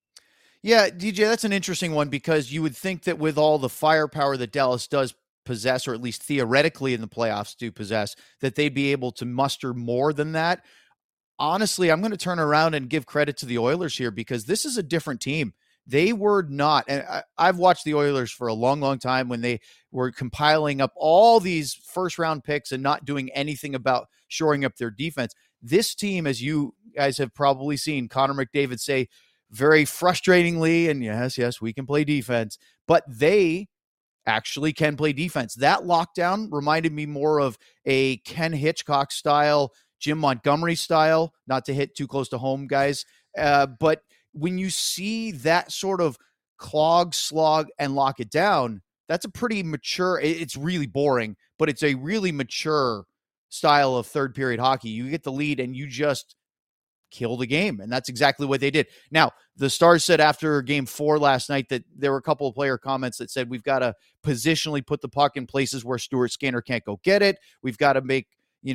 Yeah, DJ, that's an interesting one because you would think that with all the firepower that Dallas does possess, or at least theoretically in the playoffs do possess, that they'd be able to muster more than that. Honestly, I'm going to turn around and give credit to the Oilers here because this is a different team. They were not, and I've watched the Oilers for a long, long time when they were compiling up all these first-round picks and not doing anything about shoring up their defense. This team, as you guys have probably seen Connor McDavid say very frustratingly, and yes, we can play defense, but they actually can play defense. That lockdown reminded me more of a Ken Hitchcock style, Jim Montgomery style, not to hit too close to home, guys. But when you see that sort of clog, slog, and lock it down, that's a pretty mature, it's really boring, but it's a really mature style of third period hockey. You get the lead and you just kill the game. And that's exactly what they did. Now, the Stars said after game 4 last night that there were a couple of player comments that said, we've got to positionally put the puck in places where Stuart Skinner can't go get it. We've got to make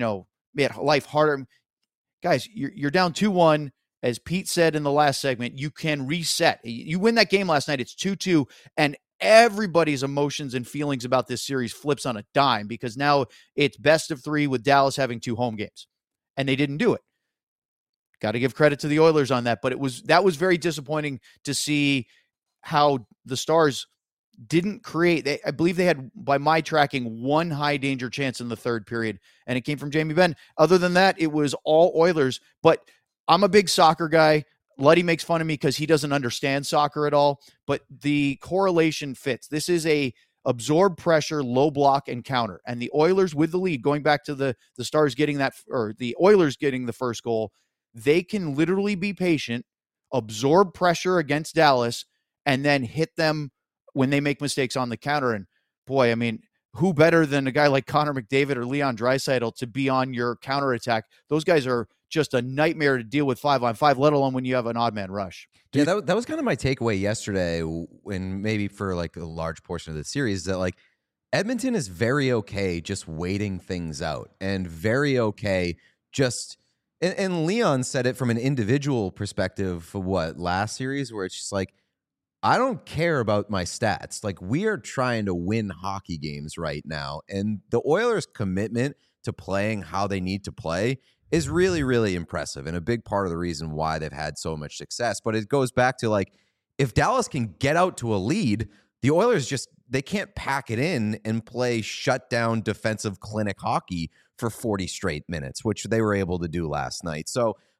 life harder. Guys, you're down 2-1. As Pete said in the last segment, you can reset. You win that game last night, it's 2-2, and everybody's emotions and feelings about this series flips on a dime because now it's best of 3 with Dallas having 2 home games, and they didn't do it. Got to give credit to the Oilers on that, but that was very disappointing to see how the Stars didn't create. I believe they had, by my tracking, 1 high danger chance in the third period, and it came from Jamie Benn. Other than that, it was all Oilers, but I'm a big soccer guy. Luddy makes fun of me because he doesn't understand soccer at all, but the correlation fits. This is a absorb pressure, low block, and counter. And the Oilers with the lead, going back to the Stars getting that, or the Oilers getting the first goal, they can literally be patient, absorb pressure against Dallas, and then hit them when they make mistakes on the counter. And boy, I mean, who better than a guy like Connor McDavid or Leon Draisaitl to be on your counterattack? Those guys are just a nightmare to deal with 5-on-5, let alone when you have an odd man rush. Yeah, that was kind of my takeaway yesterday, and maybe for like a large portion of the series, that like Edmonton is very okay just waiting things out and very okay just. And Leon said it from an individual perspective for last series, where it's just like, I don't care about my stats. Like, we are trying to win hockey games right now. And the Oilers' commitment to playing how they need to play is really, really impressive. And a big part of the reason why they've had so much success. But it goes back to like, if Dallas can get out to a lead, the Oilers they can't pack it in and play shutdown defensive clinic hockey for 40 straight minutes, which they were able to do last night. So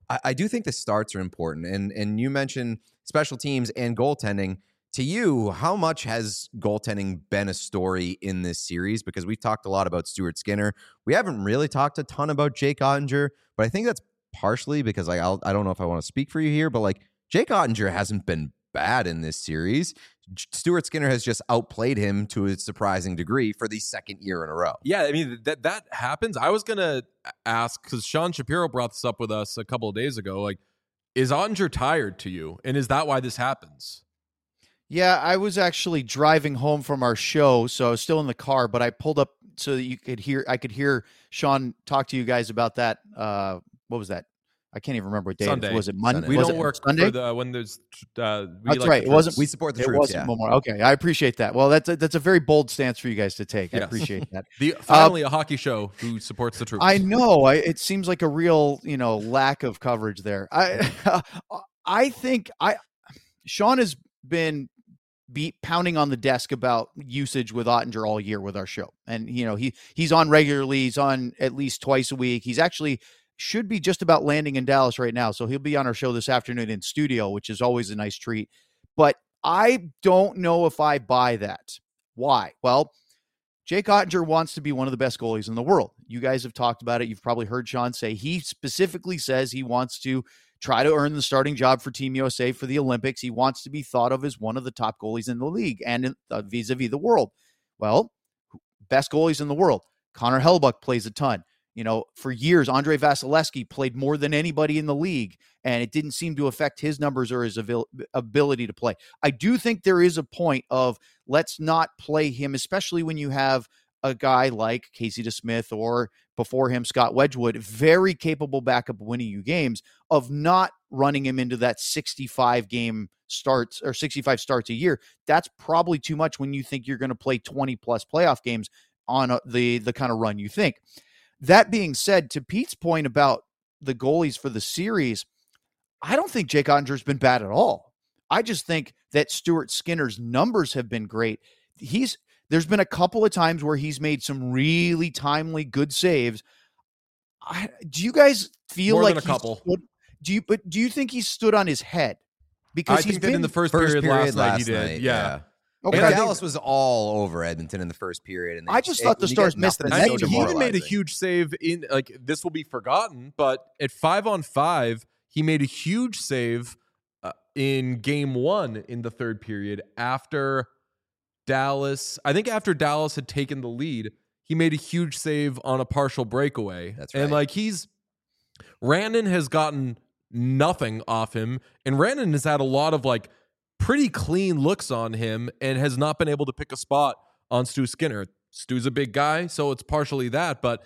I do think the starts are important. And you mentioned special teams and goaltending. To you, how much has goaltending been a story in this series? Because we've talked a lot about Stuart Skinner. We haven't really talked a ton about Jake Ottinger, but I think that's partially because I don't know if I want to speak for you here, but like Jake Ottinger hasn't been bad in this series. Stuart Skinner has just outplayed him to a surprising degree for the second year in a row. Yeah, I mean, that happens. I was going to ask, because Sean Shapiro brought this up with us a couple of days ago, like, is Ottinger tired to you? And is that why this happens? Yeah, I was actually driving home from our show, so I was still in the car, but I pulled up so that I could hear Sean talk to you guys about that. What was that? I can't even remember what day Sunday. was it. Monday? We Was don't it work Sunday? for when there's. That's right. It wasn't. We support the It troops. wasn't Memorial. Okay, I appreciate that. Well, that's a very bold stance for you guys to take. I Yes. appreciate that. Finally, a hockey show who supports the troops. I know. It seems like a real, lack of coverage there. I think Sean has been pounding on the desk about usage with Ottinger all year with our show, and he's on regularly. He's on at least twice a week. He's actually should be just about landing in Dallas right now, so he'll be on our show this afternoon in studio, which is always a nice treat. But I don't know if I buy that. Why? Well, Jake Ottinger wants to be one of the best goalies in the world. You guys have talked about it. You've probably heard Sean say he specifically says he wants to try to earn the starting job for Team USA for the Olympics. He wants to be thought of as one of the top goalies in the league and vis-a-vis the world. Well, best goalies in the world. Connor Hellebuyck plays a ton. For years, Andrei Vasilevsky played more than anybody in the league, and it didn't seem to affect his numbers or his ability to play. I do think there is a point of let's not play him, especially when you have a guy like Casey DeSmith or before him, Scott Wedgwood, very capable backup winning you games, of not running him into that 65 game starts or 65 starts a year. That's probably too much when you think you're going to play 20 plus playoff games on the kind of run you think. That being said, to Pete's point about the goalies for the series, I don't think Jake Ottinger's been bad at all. I just think that Stuart Skinner's numbers have been great. There's been a couple of times where he's made some really timely, good saves. Do you guys feel More like than a couple? Do you think he stood on his head? Because I think that in the first period last night he did. Yeah. Okay. And I Dallas was all over Edmonton in the first period. And I just thought the Stars missed the I net. mean, so he even made a demoralizing. huge save in this will be forgotten, but at 5-on-5, he made a huge save in game 1 in the third period after Dallas. I think after Dallas had taken the lead, he made a huge save on a partial breakaway. That's right. And Rannon has gotten nothing off him, and Rannon has had a lot of pretty clean looks on him and has not been able to pick a spot on Stu Skinner. Stu's a big guy, so it's partially that. But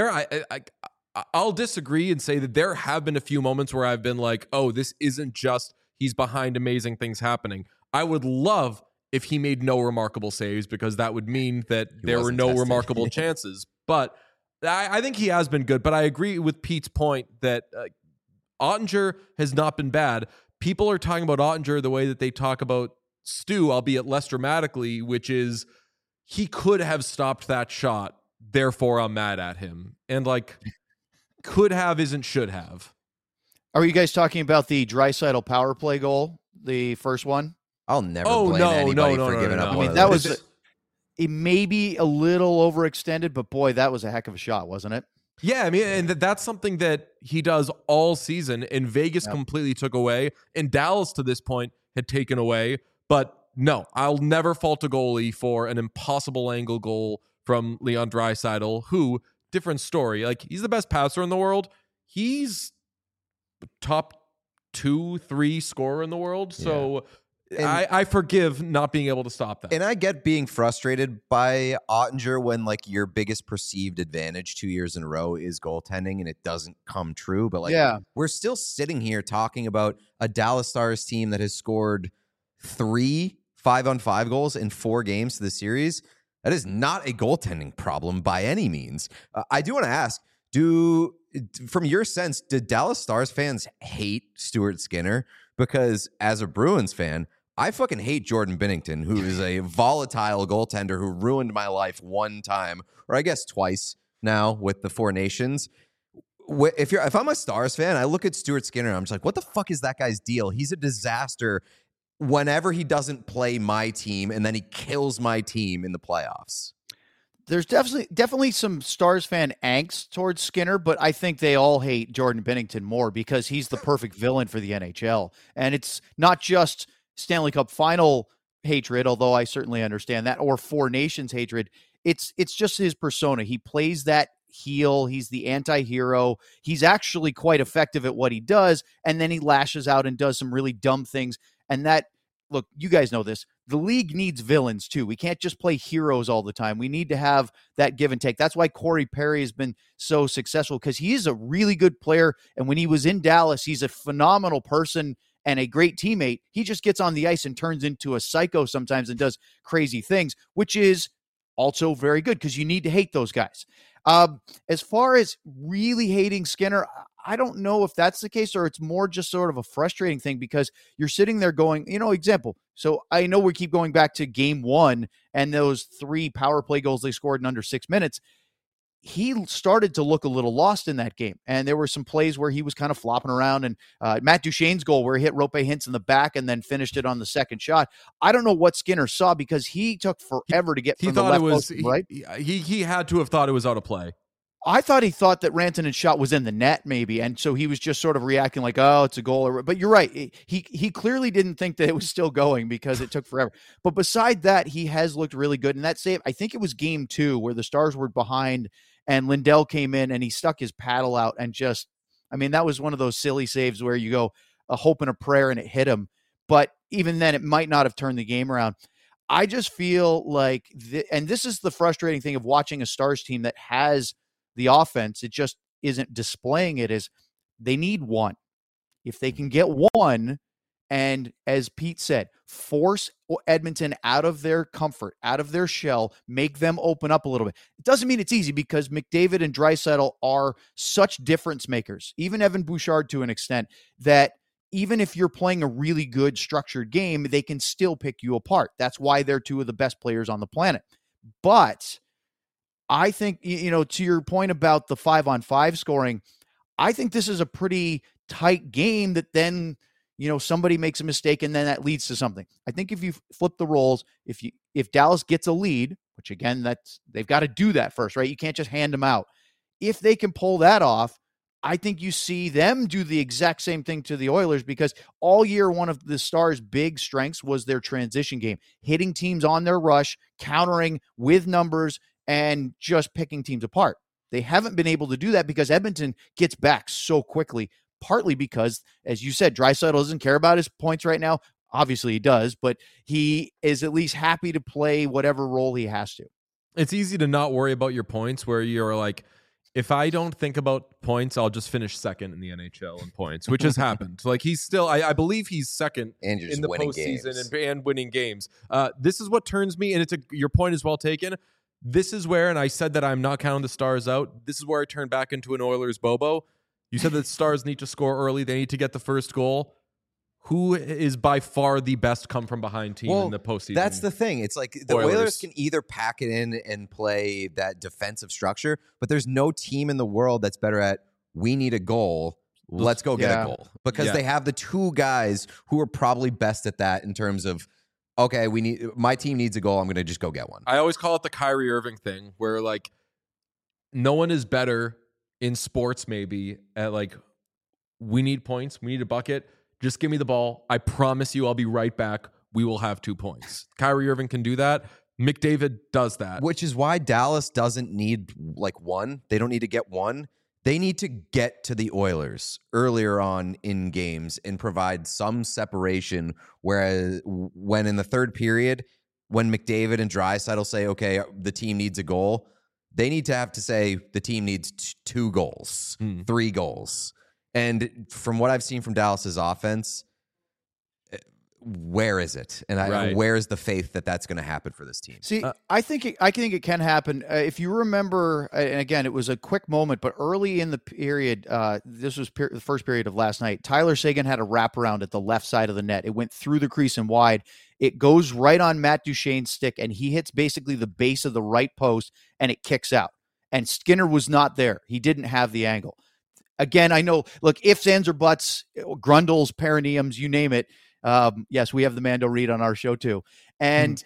I'll disagree and say that there have been a few moments where I've been like, oh, this isn't just he's behind amazing things happening. I would love if he made no remarkable saves, because that would mean that there were wasn't no tested. remarkable chances. But I think he has been good. But I agree with Pete's point that Ottinger has not been bad. People are talking about Ottinger the way that they talk about Stu, albeit less dramatically, which is he could have stopped that shot. Therefore, I'm mad at him. And could have isn't should have. Are you guys talking about the Draisaitl power play goal, the first one? I'll never blame anybody for giving up. I one mean, of that those. was it may be a little overextended, but boy, that was a heck of a shot, wasn't it? Yeah, I mean, and that's something that he does all season, and Vegas completely took away, and Dallas to this point had taken away. But no, I'll never fault a goalie for an impossible angle goal from Leon Draisaitl, who, different story. He's the best passer in the world. He's top 2-3 scorer in the world. So I forgive not being able to stop that. And I get being frustrated by Ottinger when your biggest perceived advantage 2 years in a row is goaltending and it doesn't come true. But we're still sitting here talking about a Dallas Stars team that has scored 3 5-on-5 goals in 4 games to the series. That is not a goaltending problem by any means. I do want to ask, from your sense, did Dallas Stars fans hate Stuart Skinner? Because as a Bruins fan, I fucking hate Jordan Binnington, who is a volatile goaltender who ruined my life one time, or I guess twice now with the Four Nations. if I'm a Stars fan, I look at Stuart Skinner and I'm just like, what the fuck is that guy's deal? He's a disaster whenever he doesn't play my team, and then he kills my team in the playoffs. There's definitely some Stars fan angst towards Skinner, but I think they all hate Jordan Binnington more because he's the perfect villain for the NHL. And it's not just Stanley Cup final hatred, although I certainly understand that, or Four Nations hatred. It's just his persona. He plays that heel. He's the anti-hero. He's actually quite effective at what he does, and then he lashes out and does some really dumb things. And that, look, you guys know this. The league needs villains too. We can't just play heroes all the time. We need to have that give and take. That's why Corey Perry has been so successful, because he is a really good player. And when he was in Dallas, he's a phenomenal person and a great teammate. He just gets on the ice and turns into a psycho sometimes and does crazy things, which is also very good because you need to hate those guys. As far as really hating Skinner, I don't know if that's the case, or it's more just sort of a frustrating thing because you're sitting there going, example. So I know we keep going back to game 1 and those 3 power play goals they scored in under 6 minutes. He started to look a little lost in that game. And there were some plays where he was kind of flopping around, and Matt Duchene's goal where he hit Rope Hintz in the back and then finished it on the second shot. I don't know what Skinner saw because he took forever to get from the left post, right? He had to have thought it was out of play. I thought he thought that Rantanen's shot was in the net, maybe, and so he was just sort of reacting like, "Oh, it's a goal." But you're right; he clearly didn't think that it was still going because it took forever. But beside that, he has looked really good. And that save, I think it was game 2 where the Stars were behind, and Lindell came in and he stuck his paddle out and just, that was one of those silly saves where you go a hope and a prayer and it hit him. But even then, it might not have turned the game around. I just feel like, and this is the frustrating thing of watching a Stars team that has the offense, it just isn't displaying it, is they need one. If they can get one, and as Pete said, force Edmonton out of their comfort, out of their shell, make them open up a little bit. It doesn't mean it's easy because McDavid and Draisaitl are such difference makers, even Evan Bouchard to an extent, that even if you're playing a really good structured game, they can still pick you apart. That's why they're 2 of the best players on the planet. But I think, to your point about the 5-on-5 scoring, I think this is a pretty tight game that then, somebody makes a mistake and then that leads to something. I think if you flip the roles, if Dallas gets a lead, which again, they've got to do that first, right? You can't just hand them out. If they can pull that off, I think you see them do the exact same thing to the Oilers, because all year, one of the Stars' big strengths was their transition game, hitting teams on their rush, countering with numbers, and just picking teams apart. They haven't been able to do that because Edmonton gets back so quickly, partly because, as you said, Draisaitl doesn't care about his points right now. Obviously he does, but he is at least happy to play whatever role he has to. It's easy to not worry about your points, where you're like, if I don't think about points, I'll just finish second in the NHL in points, which has happened. Like, he's still, I believe he's second in the postseason and winning games. This is what turns me, and your point is well taken. This is where, and I said that I'm not counting the Stars out, this is where I turn back into an Oilers Bobo. You said that Stars need to score early. They need to get the first goal. Who is by far the best come-from-behind team in the postseason? That's the thing. It's like the Oilers can either pack it in and play that defensive structure, but there's no team in the world that's better at, we need a goal, let's go get a goal. Because they have the 2 guys who are probably best at that in terms of, okay, my team needs a goal, I'm going to just go get one. I always call it the Kyrie Irving thing, where like no one is better in sports maybe at like, we need points, we need a bucket, just give me the ball, I promise you I'll be right back, we will have 2 points. Kyrie Irving can do that. McDavid does that. Which is why Dallas doesn't need like one. They don't need to get one. They need to get to the Oilers earlier on in games and provide some separation. Whereas when in the third period, when McDavid and Draisaitl say, okay, the team needs a goal, they need to have to say the team needs 2 goals, 3 goals. And from what I've seen from Dallas's offense, where is it? And where's the faith that that's going to happen for this team? See, I think it can happen. If you remember, and again, it was a quick moment, but early in the period, this was the first period of last night, Tyler Seguin had a wraparound at the left side of the net. It went through the crease and wide. It goes right on Matt Duchene's stick, and he hits basically the base of the right post, and it kicks out. And Skinner was not there. He didn't have the angle. again, I know, look, ifs, ands, or buts, grundles, perineums, you name it. Yes, we have the Mando Reed on our show too. And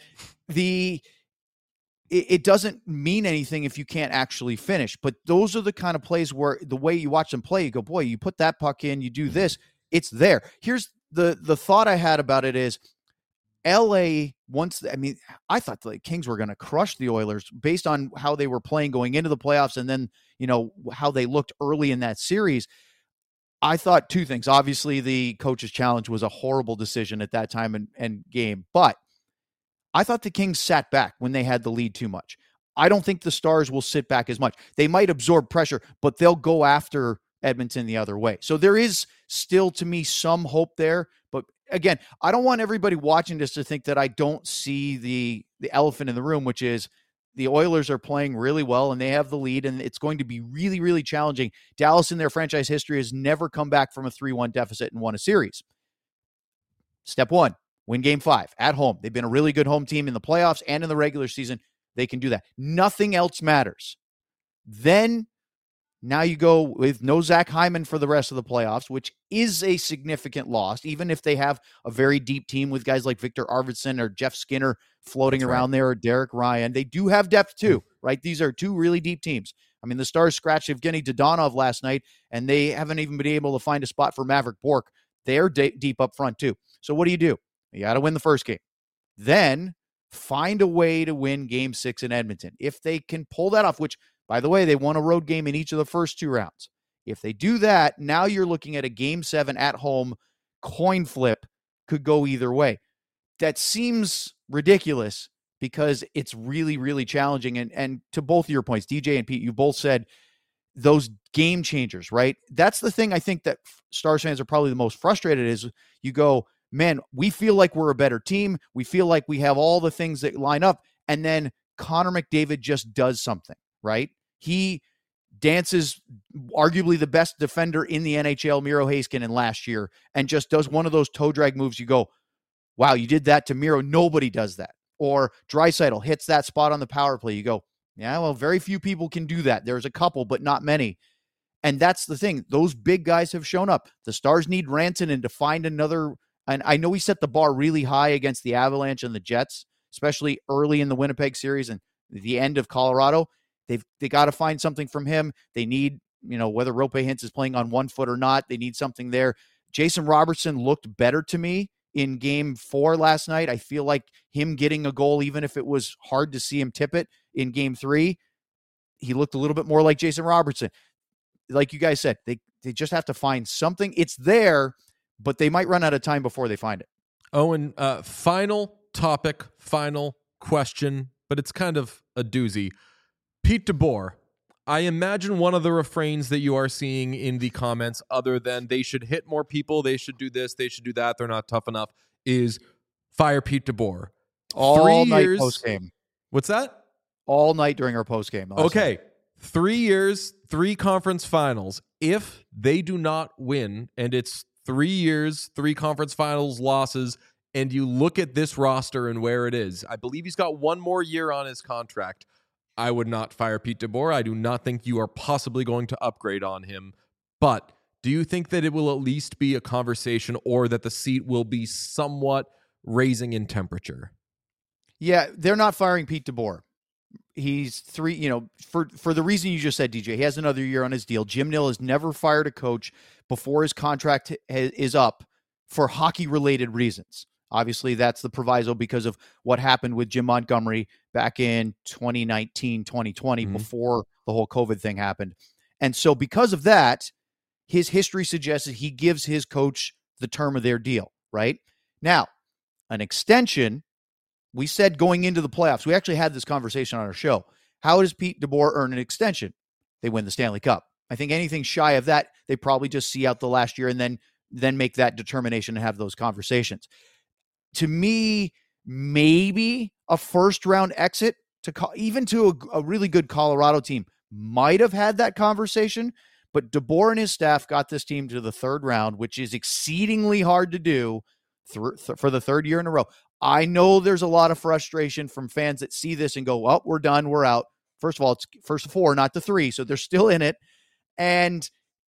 it doesn't mean anything if you can't actually finish. But those are the kind of plays where the way you watch them play, you go, boy, you put that puck in, you do this, it's there. Here's the thought I had about it is LA I thought the Kings were going to crush the Oilers based on how they were playing going into the playoffs and then, how they looked early in that series. I thought two things. Obviously, the coach's challenge was a horrible decision at that time and game, but I thought the Kings sat back when they had the lead too much. I don't think the Stars will sit back as much. They might absorb pressure, but they'll go after Edmonton the other way. So there is still, to me, some hope there. But again, I don't want everybody watching this to think that I don't see the elephant in the room, which is the Oilers are playing really well and they have the lead, and it's going to be really, really challenging. Dallas in their franchise history has never come back from a 3-1 deficit and won a series. Step one, win game 5 at home. They've been a really good home team in the playoffs and in the regular season. They can do that. Nothing else matters. Then now you go with no Zach Hyman for the rest of the playoffs, which is a significant loss, even if they have a very deep team with guys like Victor Arvidsson or Jeff Skinner floating around there, or Derek Ryan. They do have depth too, right? These are two really deep teams. I mean, the Stars scratched Evgeny Dodonov last night, and they haven't even been able to find a spot for Maverick Bourque. They're deep up front too. So what do? You got to win the first game. Then find a way to win game 6 in Edmonton. If they can pull that off, which, by the way, they won a road game in each of the first 2 rounds. If they do that, now you're looking at a game 7 at home coin flip, could go either way. That seems ridiculous because it's really, really challenging. And to both of your points, DJ and Pete, you both said those game changers, right? That's the thing I think that Stars fans are probably the most frustrated is you go, man, we feel like we're a better team. We feel like we have all the things that line up. And then Connor McDavid just does something, right? He dances arguably the best defender in the NHL, Miro Heiskanen, last year, and just does one of those toe drag moves. You go, wow, you did that to Miro. Nobody does that. Or Draisaitl hits that spot on the power play. You go, yeah, well, very few people can do that. There's a couple, but not many. And that's the thing. Those big guys have shown up. The Stars need Rantanen to find another. And I know he set the bar really high against the Avalanche and the Jets, especially early in the Winnipeg series and the end of Colorado. They got to find something from him. They need, whether Roope Hintz is playing on one foot or not, they need something there. Jason Robertson looked better to me in game 4 last night. I feel like him getting a goal, even if it was hard to see him tip it in game 3, he looked a little bit more like Jason Robertson. Like you guys said, they just have to find something. It's there, but they might run out of time before they find it. Owen, final topic, final question, but it's kind of a doozy. Pete DeBoer, I imagine one of the refrains that you are seeing in the comments, other than they should hit more people, they should do this, they should do that, they're not tough enough, is fire Pete DeBoer. All night post-game. What's that? All night during our post-game. Okay. 3 years, 3 conference finals. If they do not win, and it's 3 years, 3 conference finals losses, and you look at this roster and where it is, I believe he's got 1 more year on his contract. I would not fire Pete DeBoer. I do not think you are possibly going to upgrade on him. But do you think that it will at least be a conversation, or that the seat will be somewhat raising in temperature? Yeah, they're not firing Pete DeBoer. He's 3, for the reason you just said, DJ, he has another year on his deal. Jim Nill has never fired a coach before his contract is up for hockey-related reasons. Obviously, that's the proviso because of what happened with Jim Montgomery back in 2019, 2020, before the whole COVID thing happened. And so because of that, his history suggests that he gives his coach the term of their deal, right? Now, an extension, we said going into the playoffs, we actually had this conversation on our show. How does Pete DeBoer earn an extension? They win the Stanley Cup. I think anything shy of that, they probably just see out the last year and then make that determination and have those conversations. To me, maybe a first-round exit even to a really good Colorado team might have had that conversation, but DeBoer and his staff got this team to the 3rd round, which is exceedingly hard to do for the 3rd year in a row. I know there's a lot of frustration from fans that see this and go, well, we're done, we're out. First of all, it's first 4, not the 3, so they're still in it. And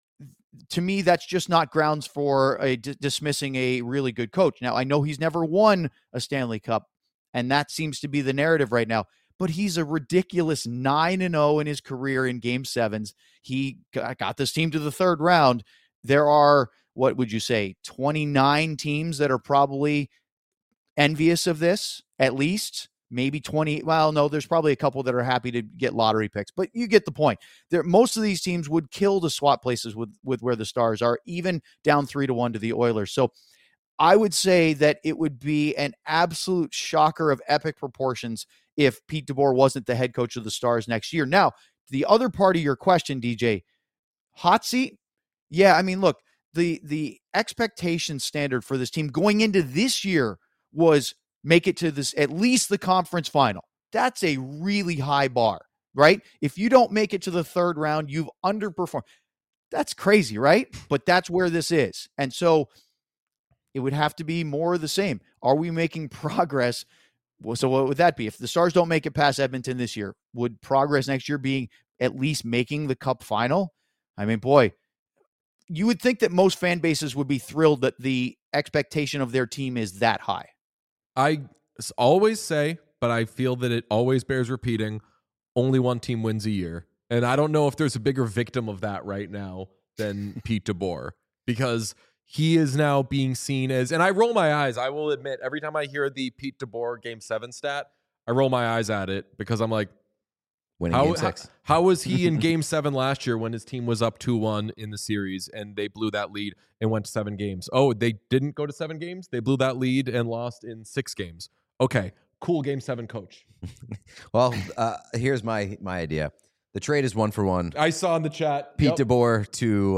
to me, that's just not grounds for dismissing a really good coach. Now, I know he's never won a Stanley Cup, and that seems to be the narrative right now. But he's a ridiculous 9-0 in his career in Game 7s. He got this team to the third round. There are, what would you say, 29 teams that are probably envious of this, at least. Maybe 20. Well, no, there's probably a couple that are happy to get lottery picks, but you get the point. Most of these teams would kill to swap places with where the Stars are, even down 3-1 to the Oilers. So I would say that it would be an absolute shocker of epic proportions if Pete DeBoer wasn't the head coach of the Stars next year. Now, the other part of your question, DJ, hot seat? Yeah, I mean, look, the expectation standard for this team going into this year was make it to this, at least the conference final. That's a really high bar, right? If you don't make it to the third round, you've underperformed. That's crazy, right? But that's where this is. And so it would have to be more of the same. Are we making progress? Well, so what would that be? If the Stars don't make it past Edmonton this year, would progress next year being at least making the Cup final? I mean, boy, you would think that most fan bases would be thrilled that the expectation of their team is that high. I always say, but I feel that it always bears repeating, only one team wins a year. And I don't know if there's a bigger victim of that right now than Pete DeBoer, because he is now being seen as, and I roll my eyes, I will admit, every time I hear the Pete DeBoer Game 7 stat, I roll my eyes at it because I'm like, Winning Game 6. How was he in Game 7 last year when his team was up 2-1 in the series and they blew that lead and went to 7 games? Oh, they didn't go to 7 games? They blew that lead and lost in 6 games. Okay, cool Game 7 coach. Well, here's my idea. The trade is 1-for-1. I saw in the chat. Pete DeBoer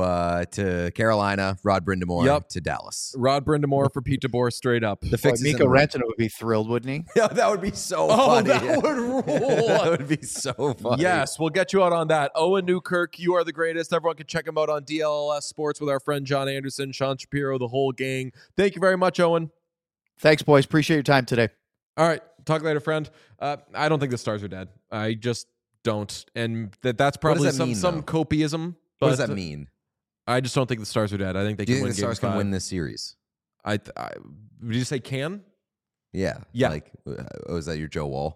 to Carolina, Rod Brind'Amour to Dallas. Rod Brind'Amour for Pete DeBoer straight up. The fix Mikko Rantanen would be thrilled, wouldn't he? Yeah, that would be so funny. That would rule. That would be so funny. Yes, we'll get you out on that. Owen Newkirk, you are the greatest. Everyone can check him out on DLLS Sports with our friend John Anderson, Sean Shapiro, the whole gang. Thank you very much, Owen. Thanks, boys. Appreciate your time today. All right. Talk later, friend. I don't think the Stars are dead. I just don't. And that's probably some copiism. What does that mean? I just don't think the Stars are dead. I think they Do you can think win the Stars can win this series? Would you say can? Yeah. Yeah. Like, is that your Joe Wall?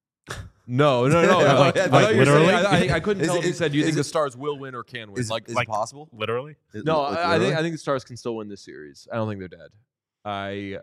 No. Like literally? I couldn't tell if you said, do you think the Stars will win or can win? Is it possible? Literally? No, I literally? think the Stars can still win this series. I don't think they're dead. I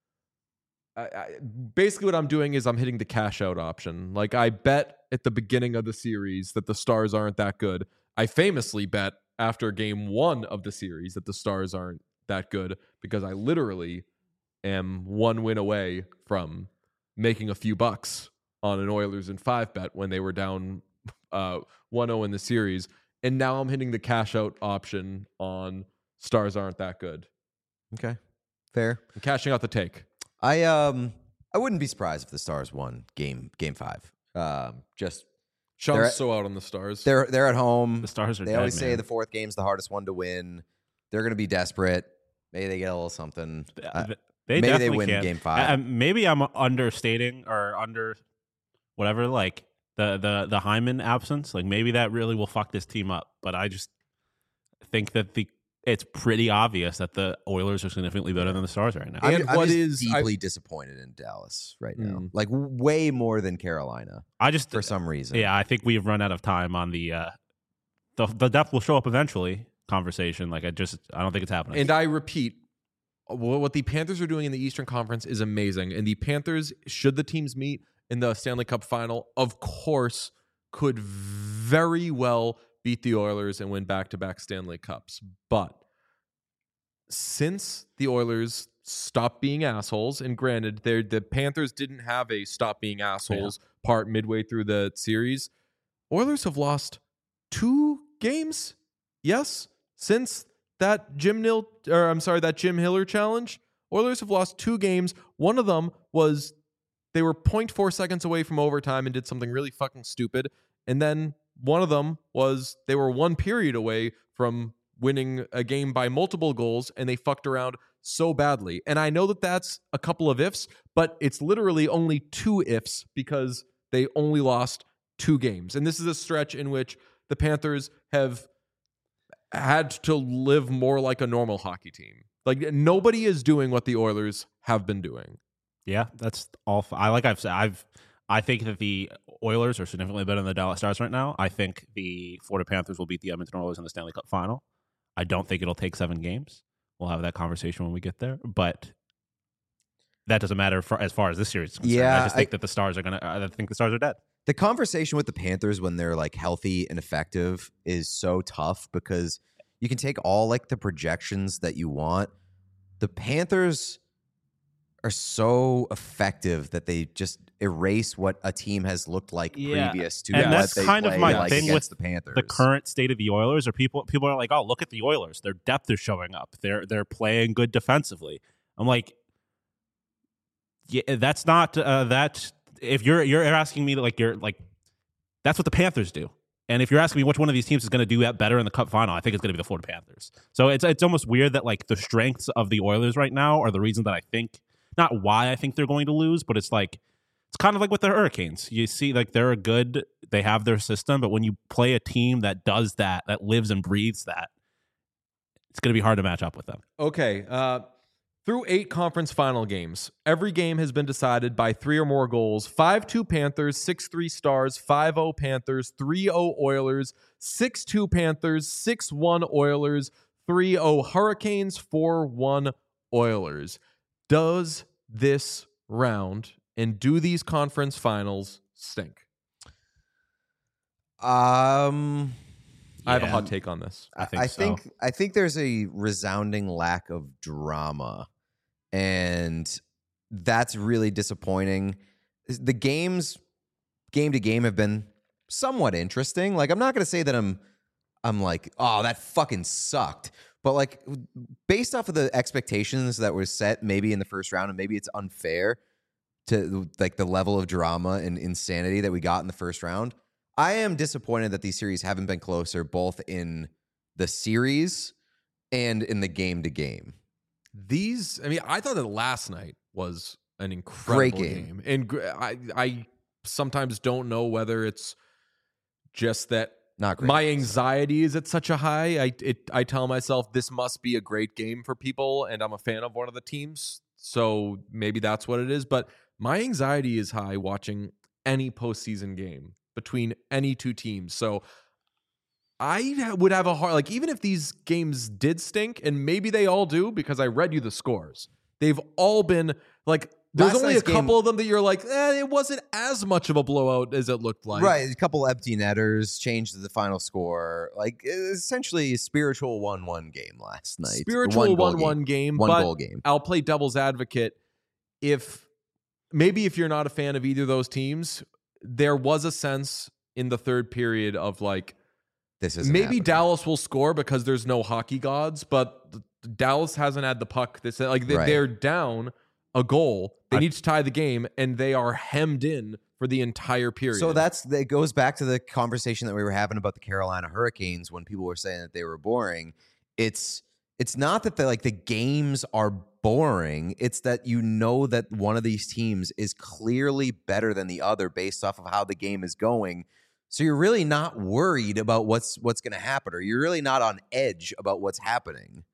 basically what I'm doing is I'm hitting the cash out option. Like, I bet at the beginning of the series that the Stars aren't that good. I famously bet after Game 1 of the series that the Stars aren't that good because I literally am 1 win away from making a few bucks on an Oilers in 5 bet when they were down 1-0 in the series. And now I'm hitting the cash out option on Stars aren't that good. Okay. Fair. I'm cashing out the take. I wouldn't be surprised if the Stars won game 5. Just Sean's so out on the Stars. they're at home. The Stars are They dead, always say man. the 4th game's the hardest one to win. They're going to be desperate. Maybe they get a little something. They maybe they definitely win can. Game 5. Maybe I'm understating or under whatever, like the Hyman absence. Like, maybe that really will fuck this team up. But I just think that it's pretty obvious that the Oilers are significantly better than the Stars right now. And I'm what just is- deeply disappointed in Dallas right now. Like, way more than Carolina I just for some reason. Yeah, I think we've run out of time on the depth will show up eventually conversation. Like, I don't think it's happening. And I repeat, what the Panthers are doing in the Eastern Conference is amazing. And the Panthers, should the teams meet in the Stanley Cup final, of course, could very well beat the Oilers and win back-to-back Stanley Cups. But since the Oilers stopped being assholes, and granted, the Panthers didn't have a stop being assholes part midway through the series, Oilers have lost 2 games. Yes, since that Jim Hiller challenge, Oilers have lost 2 games. One of them was they were 0.4 seconds away from overtime and did something really fucking stupid. And then one of them was they were 1 period away from winning a game by multiple goals, and they fucked around so badly. And I know that that's a couple of ifs, but it's literally only 2 ifs because they only lost 2 games. And this is a stretch in which the Panthers have had to live more like a normal hockey team. Like nobody is doing what the Oilers have been doing. Yeah, that's all. I've said, I think that the Oilers are significantly better than the Dallas Stars right now. I think the Florida Panthers will beat the Edmonton Oilers in the Stanley Cup final. I don't think it'll take 7 games. We'll have that conversation when we get there. But that doesn't matter as far as this series is concerned. Yeah, I just think that the Stars are I think the Stars are dead. The conversation with the Panthers when they're like healthy and effective is so tough because you can take all like the projections that you want. The Panthers are so effective that they just erase what a team has looked like previous to and what that's they kind of play, my like, thing against with the Panthers. the current state of the Oilers. Are people are like, oh, look at the Oilers, their depth is showing up. They're playing good defensively. I'm like, yeah, that's not that. If you're asking me like you're like, that's what the Panthers do. And if you're asking me which one of these teams is going to do that better in the Cup final, I think it's going to be the Florida Panthers. So it's almost weird that like the strengths of the Oilers right now are the reason that I think, not why I think they're going to lose, but it's like it's kind of like with the Hurricanes. You see, like they're they have their system, but when you play a team that does that lives and breathes that, it's going to be hard to match up with them. Okay. Through 8 conference final games, every game has been decided by 3 or more goals. 5-2 Panthers, 6-3 Stars, 5-0 Panthers, 3-0 Oilers, 6-2 Panthers, 6-1 Oilers, 3-0 Hurricanes, 4-1 Oilers. Does this round and do these conference finals stink? I have a hot take on this. I think there's a resounding lack of drama, and that's really disappointing. The games, game to game, have been somewhat interesting. Like, I'm not going to say that I'm like, oh, that fucking sucked. But like, based off of the expectations that were set, maybe in the first round, and maybe it's unfair to like the level of drama and insanity that we got in the first round. I am disappointed that these series haven't been closer, both in the series and in the game to game. I thought that last night was an incredible Great game. And I sometimes don't know whether it's just that Not great. my anxiety is at such a high. I tell myself this must be a great game for people, and I'm a fan of one of the teams, so maybe that's what it is. But my anxiety is high watching any postseason game between any two teams. So I would have a hard, like, even if these games did stink, and maybe they all do, because I read you the scores, they've all been like, there's Last only a night's couple of them that you're like, it wasn't as much of a blowout as it looked like. Right. A couple empty netters changed the final score. Like, essentially a spiritual 1-1 game last night. Spiritual 1-1 game. One but goal game. I'll play devil's advocate. If you're not a fan of either of those teams, there was a sense in the third period of like, this is maybe Dallas will score because there's no hockey gods, but Dallas hasn't had the puck. They're down a goal. They need to tie the game, and they are hemmed in for the entire period. So that goes back to the conversation that we were having about the Carolina Hurricanes when people were saying that they were boring. It's not that the games are boring. It's that you know that one of these teams is clearly better than the other based off of how the game is going. So you're really not worried about what's going to happen, or you're really not on edge about what's happening.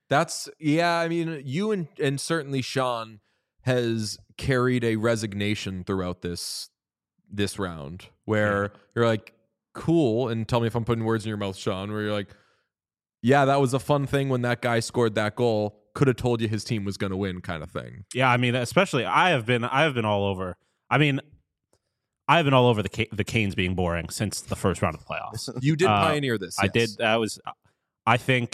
You and certainly Sean has carried a resignation throughout this round where you're like, cool, and tell me if I'm putting words in your mouth, Sean, where you're like, yeah, that was a fun thing when that guy scored that goal. Could have told you his team was going to win, kind of thing. Yeah, I mean, especially I have been all over. I mean, I've been all over the Canes being boring since the first round of the playoffs. You did pioneer this. I did. I think,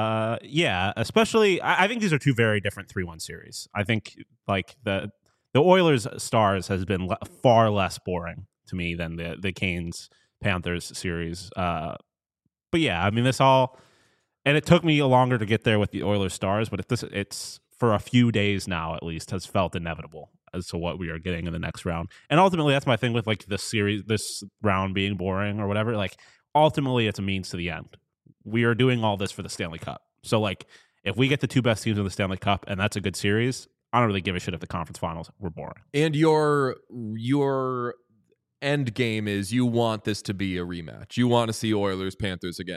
especially, I think these are two very different 3-1 series. I think like the Oilers Stars has been far less boring to me than the Canes Panthers series. But yeah, I mean, this all. And it took me longer to get there with the Oilers Stars, but it's for a few days now at least has felt inevitable as to what we are getting in the next round. And ultimately, that's my thing with like this series, this round being boring or whatever. Like ultimately, it's a means to the end. We are doing all this for the Stanley Cup. So like, if we get the two best teams in the Stanley Cup and that's a good series, I don't really give a shit if the conference finals were boring. And your end game is you want this to be a rematch. You want to see Oilers Panthers again.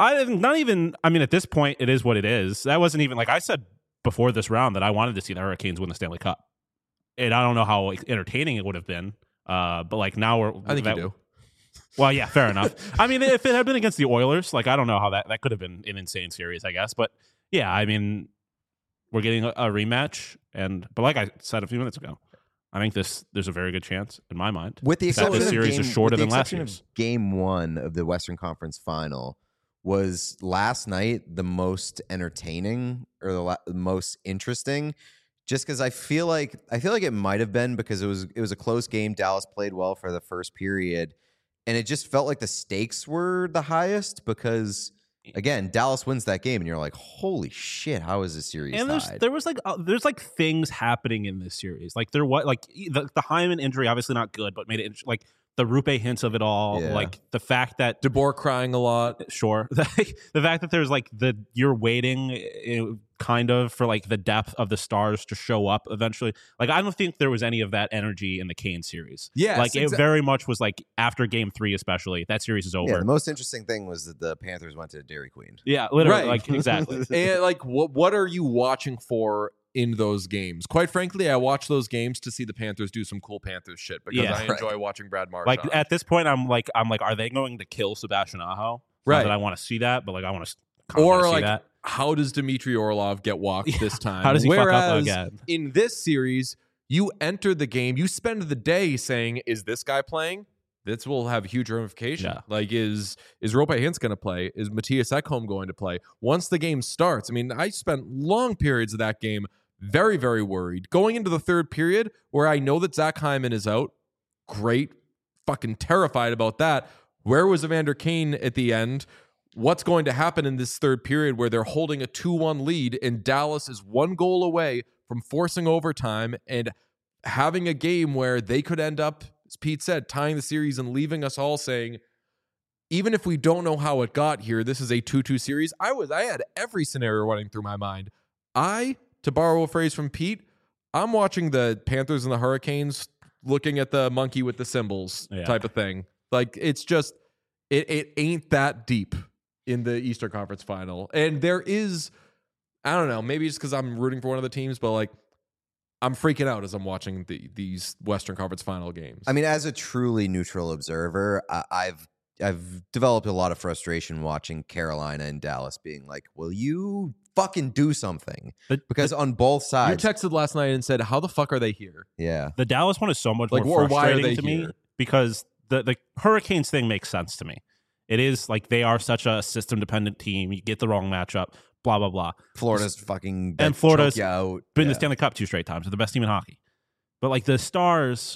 Not even. I mean, at this point, it is what it is. That wasn't even like I said before this round that I wanted to see the Hurricanes win the Stanley Cup, and I don't know how entertaining it would have been. But like now I think you do. Well, yeah, fair enough. I mean, if it had been against the Oilers, like I don't know how that could have been an insane series, I guess. But yeah, I mean, we're getting a rematch, but like I said a few minutes ago, I think there's a very good chance in my mind with the that exception this of series is shorter than last year's. Game 1 of the Western Conference Final was last night the most entertaining or the most interesting. Just because I feel like it might have been because it was a close game. Dallas played well for the first period, and it just felt like the stakes were the highest because again, Dallas wins that game, and you're like, holy shit, how is this series and tied? there's like things happening in this series. Like the Hyman injury, obviously not good, but made it like the Rupe hints of it all. Yeah. Like the fact that DeBoer crying a lot. Sure. The fact that there's like you're waiting kind of for like the depth of the stars to show up eventually. Like I don't think there was any of that energy in the Kane series. Yes, like it very much was like after Game 3 especially, that series is over. Yeah, the most interesting thing was that the Panthers went to Dairy Queen. Yeah, literally, Right. like exactly. And like, what are you watching for in those games? Quite frankly, I watch those games to see the Panthers do some cool Panthers shit because Yeah, I enjoy watching Brad Marchand. Like at this point, I'm like, are they going to kill Sebastian Aho? Right. Not that I want to see that, but like I want to. Or see like, that. how does Dmitry Orlov get walked this time? How does he fuck up Whereas again? in this series, you enter the game, you spend the day saying, "Is this guy playing?" This will have huge ramification. Yeah. Like, is Rope Hintz going to play? Is Matthias Ekholm going to play? Once the game starts, I mean, I spent long periods of that game very, very worried. Going into the third period, where I know that Zach Hyman is out, great, fucking terrified about that. Where was Evander Kane at the end? What's going to happen in this third period where they're holding a 2-1 lead and Dallas is one goal away from forcing overtime and having a game where they could end up, as Pete said, tying the series and leaving us all saying, even if we don't know how it got here, this is a 2-2 series. I had every scenario running through my mind. To borrow a phrase from Pete, I'm watching the Panthers and the Hurricanes looking at the monkey with the cymbals type of thing. Like, it's just, it ain't that deep in the Eastern Conference Final. And there is, I don't know, maybe it's because I'm rooting for one of the teams, but like, I'm freaking out as I'm watching these Western Conference Final games. I mean, as a truly neutral observer, I've developed a lot of frustration watching Carolina and Dallas being like, will you fucking do something? Because on both you sides. texted last night and said, how the fuck are they here? Yeah. The Dallas one is so much Like, more or why are frustrating they to me here? because the Hurricanes thing makes sense to me. It is like they are such a system-dependent team. You get the wrong matchup, blah, blah, blah. Florida's fucking And Florida's choke you out. been in the Stanley Cup 2 straight times. They're the best team in hockey. But like the Stars,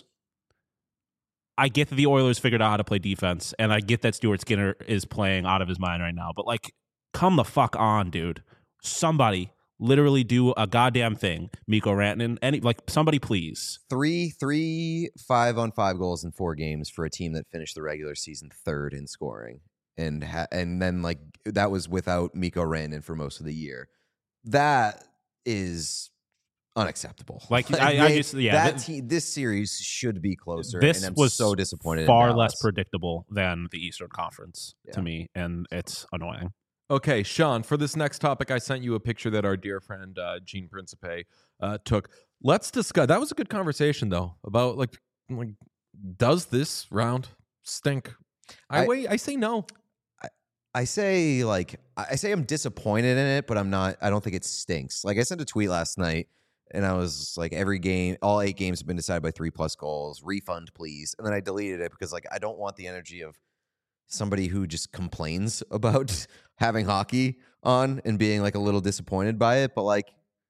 I get that the Oilers figured out how to play defense, and I get that Stuart Skinner is playing out of his mind right now. But like, come the fuck on, dude. Somebody literally do a goddamn thing. Mikko Rantanen, somebody please. 3 5-on-5 goals in 4 games for a team that finished the regular season 3rd in scoring, and then like that was without Mikko Rantanen for most of the year. That is unacceptable. Like this series should be closer. This and I'm was so disappointed. in far Dallas. less predictable than the Eastern Conference to Yeah. me, and it's annoying. Okay, Sean, for this next topic, I sent you a picture that our dear friend Gene Principe took. Let's discuss. That was a good conversation, though, about like does this round stink? I say no. I say I'm disappointed in it, but I'm not. I don't think it stinks. Like I sent a tweet last night, and I was like, all 8 games have been decided by 3+ goals. Refund, please. And then I deleted it because like I don't want the energy of somebody who just complains about having hockey on and being like a little disappointed by it. But like,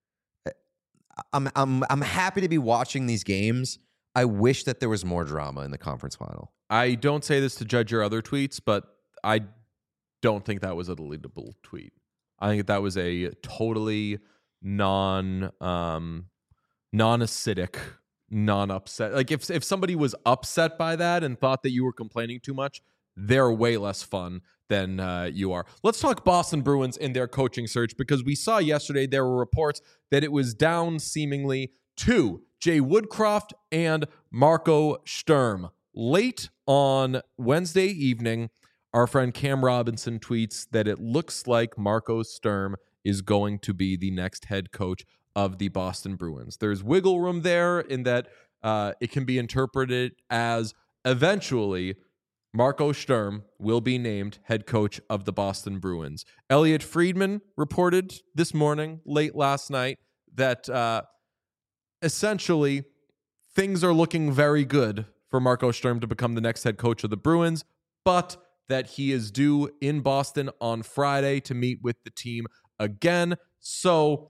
I'm happy to be watching these games. I wish that there was more drama in the conference final. I don't say this to judge your other tweets, but I don't think that was a deletable tweet. I think that was a totally non-acidic, non-upset. Like if somebody was upset by that and thought that you were complaining too much, they're way less fun than you are. Let's talk Boston Bruins in their coaching search, because we saw yesterday there were reports that it was down seemingly to Jay Woodcroft and Marco Sturm. Late on Wednesday evening, Our friend Cam Robinson tweets that it looks like Marco Sturm is going to be the next head coach of the Boston Bruins. There's wiggle room there in that it can be interpreted as eventually Marco Sturm will be named head coach of the Boston Bruins. Elliot Friedman reported this morning, late last night, that essentially things are looking very good for Marco Sturm to become the next head coach of the Bruins, but that he is due in Boston on Friday to meet with the team again. So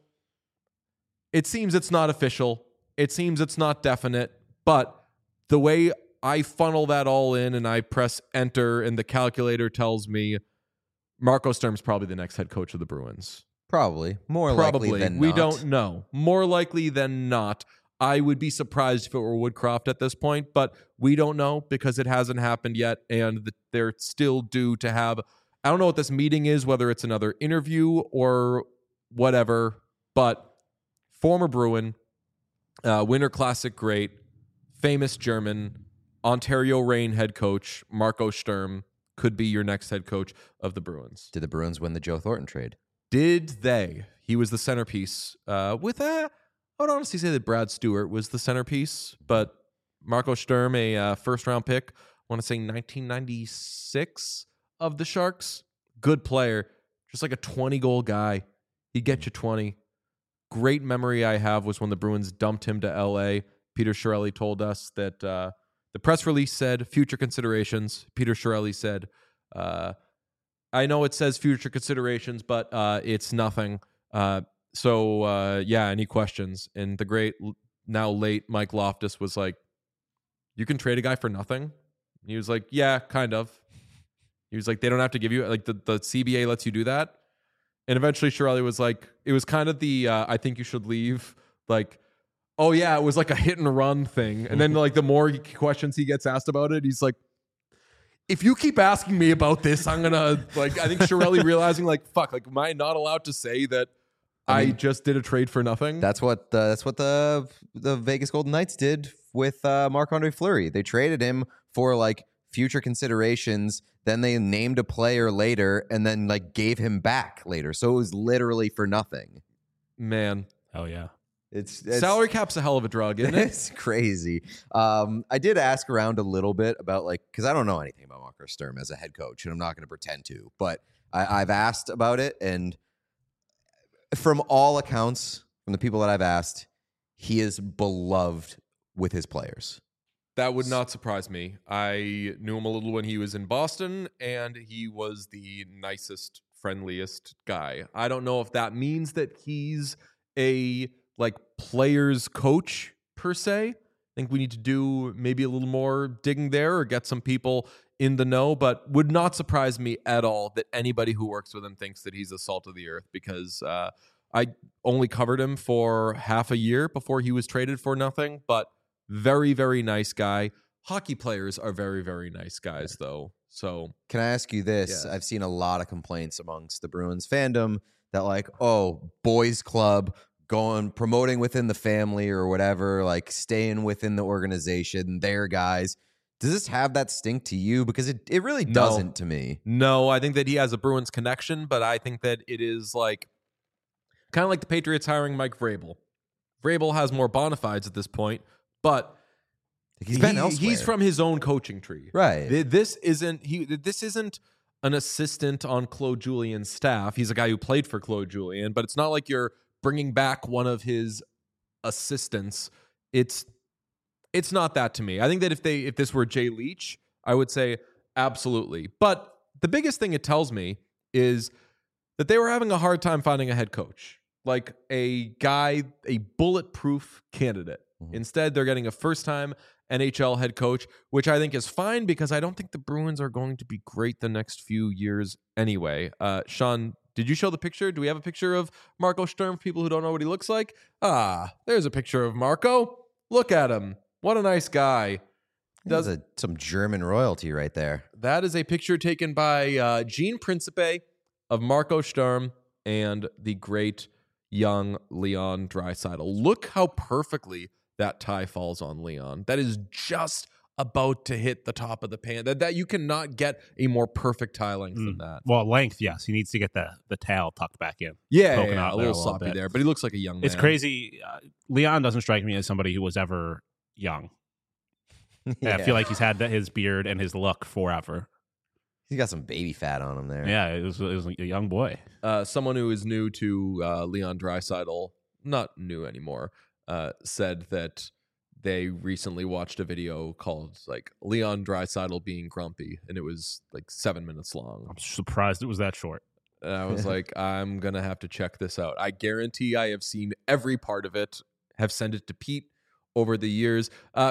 it seems it's not official. It seems it's not definite, but the way I funnel that all in and I press enter and the calculator tells me Marco Sturm's probably the next head coach of the Bruins. Probably. More likely than not. We don't know. More likely than not. I would be surprised if it were Woodcroft at this point, but we don't know because it hasn't happened yet, and they're still due to have, I don't know what this meeting is, whether it's another interview or whatever, but former Bruin, Winter Classic great, famous German, Ontario Reign head coach, Marco Sturm, could be your next head coach of the Bruins. Did the Bruins win the Joe Thornton trade? Did they? He was the centerpiece with that. I would honestly say that Brad Stewart was the centerpiece, but Marco Sturm, a first-round pick, I want to say 1996 of the Sharks. Good player, just like a 20-goal guy. He'd get you 20. Great memory I have was when the Bruins dumped him to L.A. Peter Chiarelli told us that the press release said future considerations. Peter Chiarelli said, I know it says future considerations, but it's nothing. So, any questions? And the great, now late Mike Loftus was like, you can trade a guy for nothing? And he was like, yeah, kind of. He was like, they don't have to give you, like, the CBA lets you do that. And eventually Chiarelli was like, it was kind of the, I think you should leave, like, oh yeah, it was like a hit and run thing. And then like the more questions he gets asked about it, he's like, if you keep asking me about this, I'm going to, like, I think Chiarelli realizing like, fuck, like, am I not allowed to say that I just did a trade for nothing? That's what the Vegas Golden Knights did with Marc-Andre Fleury. They traded him for like future considerations. Then they named a player later and then like gave him back later. So it was literally for nothing. Man. Hell yeah. It's salary cap's a hell of a drug, isn't it? It's crazy. I did ask around a little bit about like, because I don't know anything about Marco Sturm as a head coach, and I'm not going to pretend to, but I've asked about it, and from all accounts, from the people that I've asked, he is beloved with his players. That would not surprise me. I knew him a little when he was in Boston, and he was the nicest, friendliest guy. I don't know if that means that he's a like players coach per se. I think we need to do maybe a little more digging there or get some people in the know, but would not surprise me at all that anybody who works with him thinks that he's the salt of the earth, because I only covered him for half a year before he was traded for nothing, but very, very nice guy. Hockey players are very, very nice guys, though. So can I ask you this? Yeah. I've seen a lot of complaints amongst the Bruins fandom that like, oh, boys club, going promoting within the family or whatever, like staying within the organization, their guys. Does this have that stink to you? Because it really doesn't to me. No, I think that he has a Bruins connection, but I think that it is like kind of like the Patriots hiring Mike Vrabel. Vrabel has more bona fides at this point, but he's been elsewhere. He's from his own coaching tree. Right. This isn't an assistant on Claude Julien's staff. He's a guy who played for Claude Julien, but it's not like you're bringing back one of his assistants. It's not that to me. I think that if this were Jay Leach, I would say absolutely. But the biggest thing it tells me is that they were having a hard time finding a head coach, like a guy, a bulletproof candidate. Mm-hmm. Instead, they're getting a first-time NHL head coach, which I think is fine because I don't think the Bruins are going to be great the next few years anyway. Sean, did you show the picture? Do we have a picture of Marco Sturm for people who don't know what he looks like? Ah, there's a picture of Marco. Look at him. What a nice guy. Some German royalty right there. That is a picture taken by Gene Principe of Marco Sturm and the great young Leon Draisaitl. Look how perfectly that tie falls on Leon. That is just about to hit the top of the pan. That you cannot get a more perfect tie length than that. Well, length, yes. He needs to get the tail tucked back in. Yeah, Poking yeah, out a there little a little sloppy bit. there, but he looks like a young man. It's crazy. Leon doesn't strike me as somebody who was ever young. Yeah. I feel like he's had his beard and his look forever. He's got some baby fat on him there. Yeah, it was a young boy. Someone who is new to Leon Draisaitl, not new anymore, said that they recently watched a video called like Leon Draisaitl being grumpy, and it was like 7 minutes long. I'm surprised it was that short. And I was like, I'm gonna have to check this out. I guarantee I have seen every part of it. Have sent it to Pete over the years.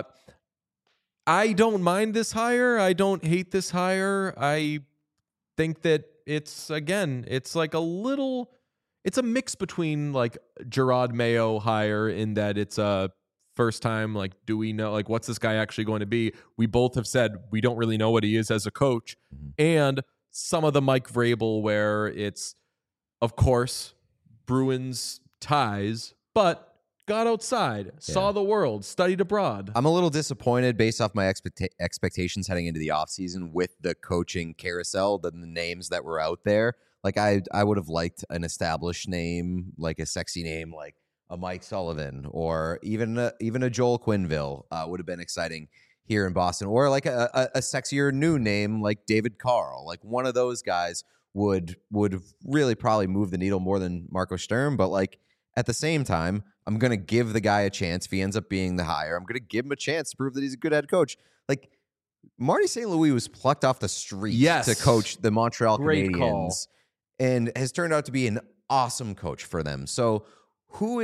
I don't mind this hire. I don't hate this hire. I think that it's like it's a mix between like Gerard Mayo hire in that it's a first time, like, do we know, like, what's this guy actually going to be? We both have said we don't really know what he is as a coach. And some of the Mike Vrabel where it's, of course, Bruins ties, but got outside, saw the world, studied abroad. I'm a little disappointed based off my expectations heading into the offseason with the coaching carousel, the names that were out there. Like I would have liked an established name, like a sexy name, like a Mike Sullivan, or even a Joel Quenneville would have been exciting here in Boston, or like a sexier new name like David Carl. Like one of those guys would really probably move the needle more than Marco Sturm. But like at the same time, I'm going to give the guy a chance. If he ends up being the hire, I'm going to give him a chance to prove that he's a good head coach. Like Marty St. Louis was plucked off the street to coach the Montreal Great Canadiens call. and has turned out to be an awesome coach for them. So who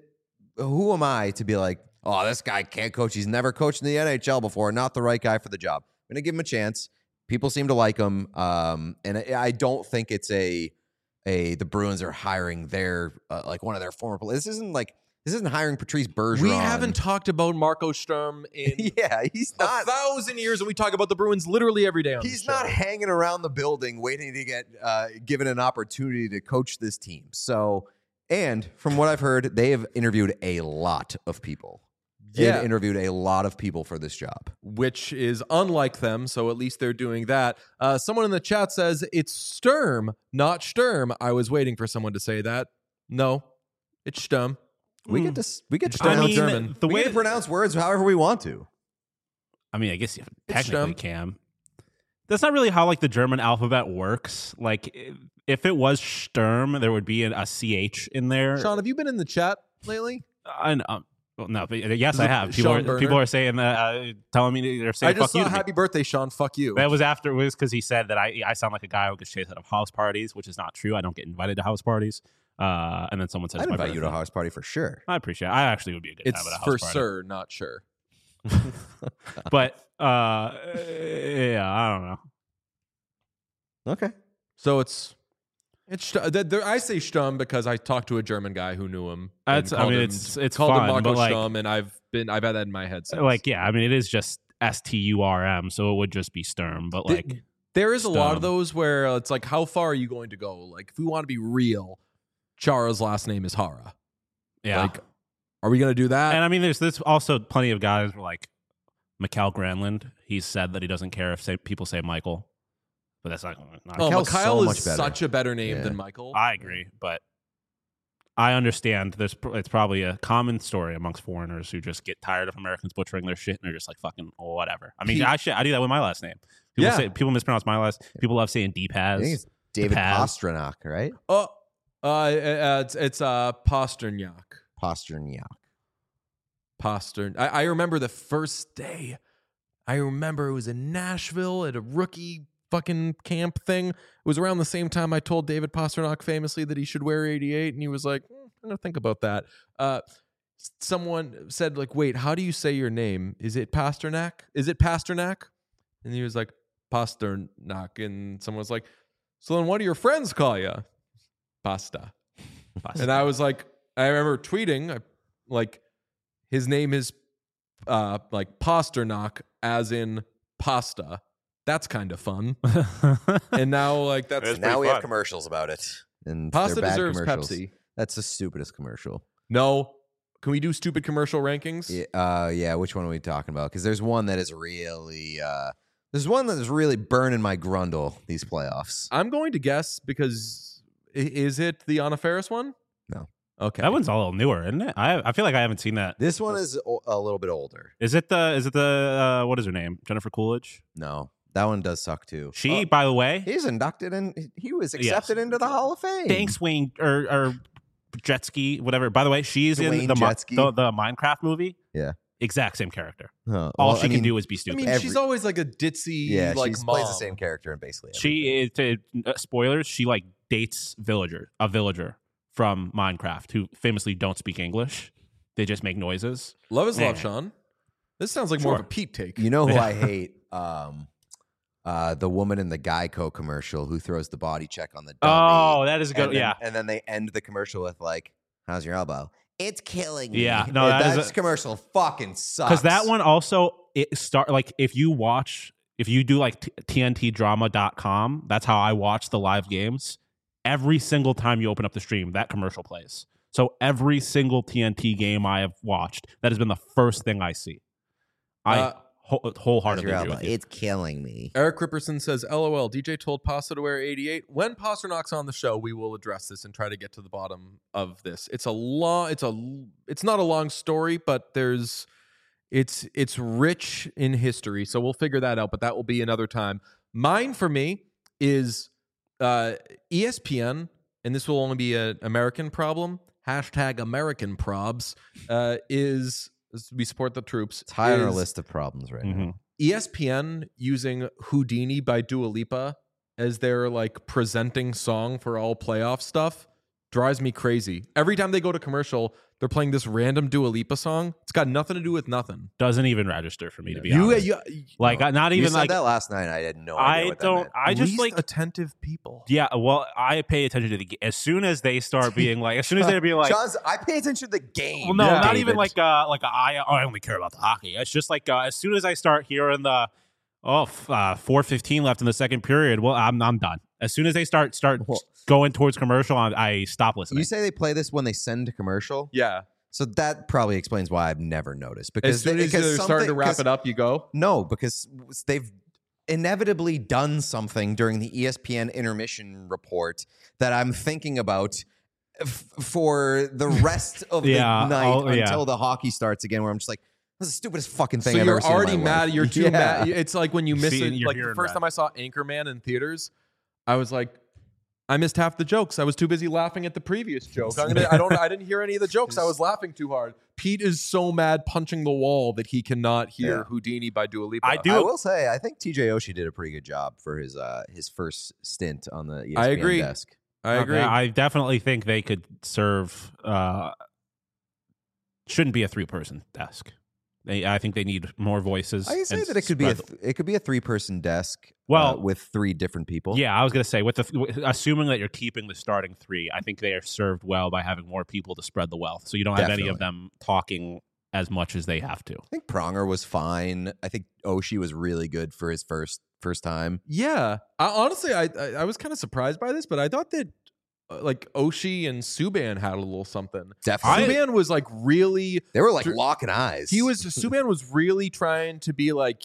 am I to be like, oh, this guy can't coach. He's never coached in the NHL before. Not the right guy for the job. I'm going to give him a chance. People seem to like him. And I don't think it's the Bruins are hiring their like one of their former players. This isn't hiring Patrice Bergeron. We haven't talked about Marco Sturm in yeah, he's not 1,000 years, and we talk about the Bruins literally every day on He's the show. not hanging around the building waiting to get given an opportunity to coach this team. So, and from what I've heard, they have interviewed a lot of people. They've interviewed a lot of people for this job. Which is unlike them, so at least they're doing that. Someone in the chat says, it's Sturm, not Sturm. I was waiting for someone to say that. No, it's Sturm. We get to I pronounce mean, German. the We way get to pronounce words however we want to. I mean, I guess you It's technically Sturm. can. That's not really how like the German alphabet works. Like if it was Sturm, there would be a CH in there. Sean, have you been in the chat lately? Well, no, but yes, I have. Sean Berner? People are saying that, telling me they're saying I just "fuck you" saw to me. happy birthday, Sean. Fuck you. That was afterwards because he said that I sound like a guy who gets chased out of house parties, which is not true. I don't get invited to house parties. And then someone says, I'd my invite you to a birthday. house party for sure. I appreciate it. I actually would be a good It's time at a house for party. sir, not sure. But yeah, I don't know. Okay. So I say Sturm because I talked to a German guy who knew him. and It's called him fun, Marco but like, Sturm, and I've had that in my head since. like, yeah, I mean, it is just STURM, so it would just be Sturm. But like, There is a lot of Sturm. those where it's like, how far are you going to go? Like, if we want to be real, Chara's last name is Hara. yeah. Like, are we going to do that? And I mean, there's also plenty of guys who like Mikhail Granlund. He's said that he doesn't care if people say Michael, but that's not. Mikhail so is much better. such a better name Yeah. than Michael. I agree, but I understand. It's probably a common story amongst foreigners who just get tired of Americans butchering their shit and they're just like fucking whatever. I mean, I do that with my last name. People mispronounce my last. People love saying I think Deepaz. it's David Paz. Pastrnak, right? It's Pasternak. Pasternak. I remember the first day. I remember it was in Nashville at a rookie fucking camp thing. It was around the same time I told David Pasternak famously that he should wear 88, and he was like, I'm gonna think about that. Someone said, like, wait, how do you say your name? Is it Pasternak? Is it Pasternak? And he was like, Pasternak. And someone was like, so then what do your friends call you? Pasta. And I was like, I remember tweeting, like, his name is like Pasternak, as in pasta. That's kind of fun. And now, like, that's Now we fun. have commercials about it. And Pasta they're bad deserves commercials. Pepsi. That's the stupidest commercial. No, Can we do stupid commercial rankings? Yeah. Which one are we talking about? Because there's one that is really, there's one that is really burning my grundle these playoffs. I'm going to guess because is it the Anna Faris one? No. Okay. That one's a little newer, isn't it? I feel like I haven't seen that. This one is a little bit older. Is it the what is her name? Jennifer Coolidge? No, that one does suck too. She, by the way, He's inducted and he was accepted into the Hall of Fame. thanks Wayne or Jetski, whatever. By the way, she's in Dwayne the Jetski. the Minecraft movie. Yeah. Exact same character. Huh. All Well, she I can mean, do is be I stupid. mean, she's always like a ditzy, Yeah, like she mom. plays the same character in basically. She is, spoilers, she like dates a villager from Minecraft who famously don't speak English. They just make noises. Love is love, Man. Sean. This sounds like more of a Sure. Pete take. You know who I hate? The woman in the Geico commercial who throws the body check on the dummy. Oh, that is a good. and then, Yeah. And then they end the commercial with like, "How's your elbow? It's killing me." Yeah, no, that is commercial fucking sucks. Because that one also if you do like TNTdrama.com, that's how I watch the live games. Every single time you open up the stream, that commercial plays. So every single TNT game I have watched, that has been the first thing I see. I How's wholeheartedly your agree elbow? with you. It's killing me. Eric Ripperson says, "LOL. DJ told Pasta to wear 88. When Pasternak's on the show, we will address this and try to get to the bottom of this. It's not a long story, but it's rich in history. So we'll figure that out. But that will be another time. Mine for me is ESPN, and this will only be an American problem. Hashtag American probs is we support the troops. It's high on our is list of problems right Mhm. now. ESPN using Houdini by Dua Lipa as their like presenting song for all playoff stuff drives me crazy. Every time they go to commercial, they're playing this random Dua Lipa song. It's got nothing to do with nothing. Doesn't even register for me to be honest. Like not You even said like that last night. I had no idea I what that don't. meant. I just least like attentive people. yeah. Well, I pay attention to the as soon as they start being like as soon as they're being like. Sean's, I pay attention to the game. Well, no, Yeah. not even David. I only care about the hockey. It's just like as soon as I start hearing the 4:15 left in the second period, well, I'm done. As soon as they start Well- going towards commercial, I stop listening. You say they play this when they send to commercial? Yeah. So that probably explains why I've never noticed. Because As soon as they're starting to wrap it up, you go. No, because they've inevitably done something during the ESPN intermission report that I'm thinking about for the rest of the Yeah, night yeah. until the hockey starts again, where I'm just like, this is the stupidest fucking thing So I've you're ever seen in already my mad. life. You're too Yeah. mad. It's like when you miss See, it. you're Like the hearing first that. time I saw Anchorman in theaters, I was like, I missed half the jokes. I was too busy laughing at the previous joke. I didn't hear any of the jokes. I was laughing too hard. Pete is so mad punching the wall that he cannot hear Yeah. Houdini by Dua Lipa. I do- I will say, I think TJ Oshie did a pretty good job for his first stint on the ESPN I agree. desk. I agree. Okay, I definitely think they could serve. Shouldn't be a 3-person desk. I think they need more voices. I say and that it could be a 3-person desk. Well- with 3 different people. Yeah, I was gonna say assuming that you're keeping the starting 3, I think they are served well by having more people to spread the wealth, so you don't have any of them talking as much as they have to. I think Pronger was fine. I think Oshie was really good for his first time. Yeah, honestly, I was kind of surprised by this, but I thought that like Oshie and Subban had a little something. Definitely, Subban was like really. they were like locking eyes. Subban was really trying to be like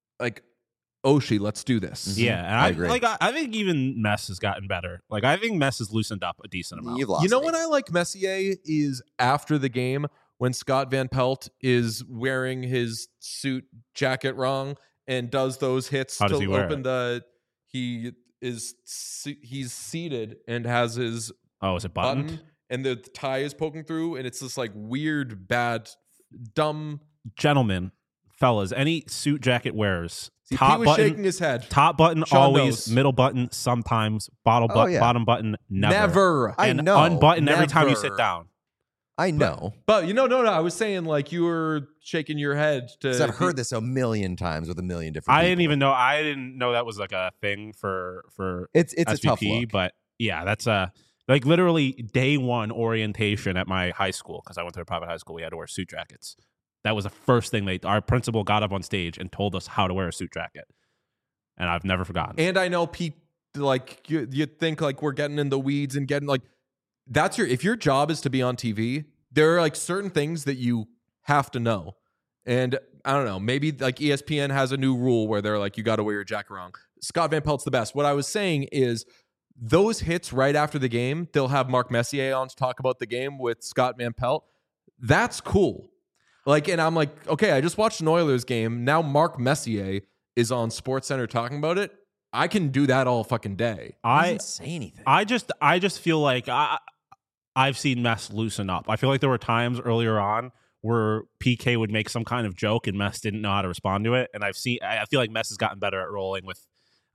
Oshie, let's do this. Yeah, and I agree. I think even Mess has gotten better. Like I think Mess has loosened up a decent amount. You've lost You know me. when I like Messier is after the game when Scott Van Pelt is wearing his suit jacket wrong and does those hits How does to he wear open it? he's seated and has his Oh, is it buttoned? button and the tie is poking through and it's this like weird bad dumb Gentlemen, fellas, any suit jacket wearers, See, top Pete was button, shaking his head. top button Sean always, knows. middle button sometimes, Oh, yeah. bottom button never. Never. I And know. unbutton every time you Never. sit down. I know. But no. I was saying like you were shaking your head to. 'Cause I've heard this a million times with a million different I people. didn't know that was like a thing for It's a SVP, tough look. but yeah, that's like literally day one orientation at my high school because I went to a private high school. We had to wear suit jackets. That was the first thing our principal got up on stage and told us how to wear a suit jacket, and I've never forgotten. And I know Pete, like you think like we're getting in the weeds and getting like if your job is to be on TV, there are like certain things that you have to know. And I don't know, maybe like ESPN has a new rule where they're like, you got to wear your jacket wrong. Scott Van Pelt's the best. What I was saying is those hits right after the game, they'll have Mark Messier on to talk about the game with Scott Van Pelt. That's cool. Like, and I'm like, okay, I just watched an Oilers game. Now Mark Messier is on SportsCenter talking about it. I can do that all fucking day. He doesn't say anything. I just feel like I've seen Mess loosen up. I feel like there were times earlier on where PK would make some kind of joke and Mess didn't know how to respond to it. And I feel like Mess has gotten better at rolling with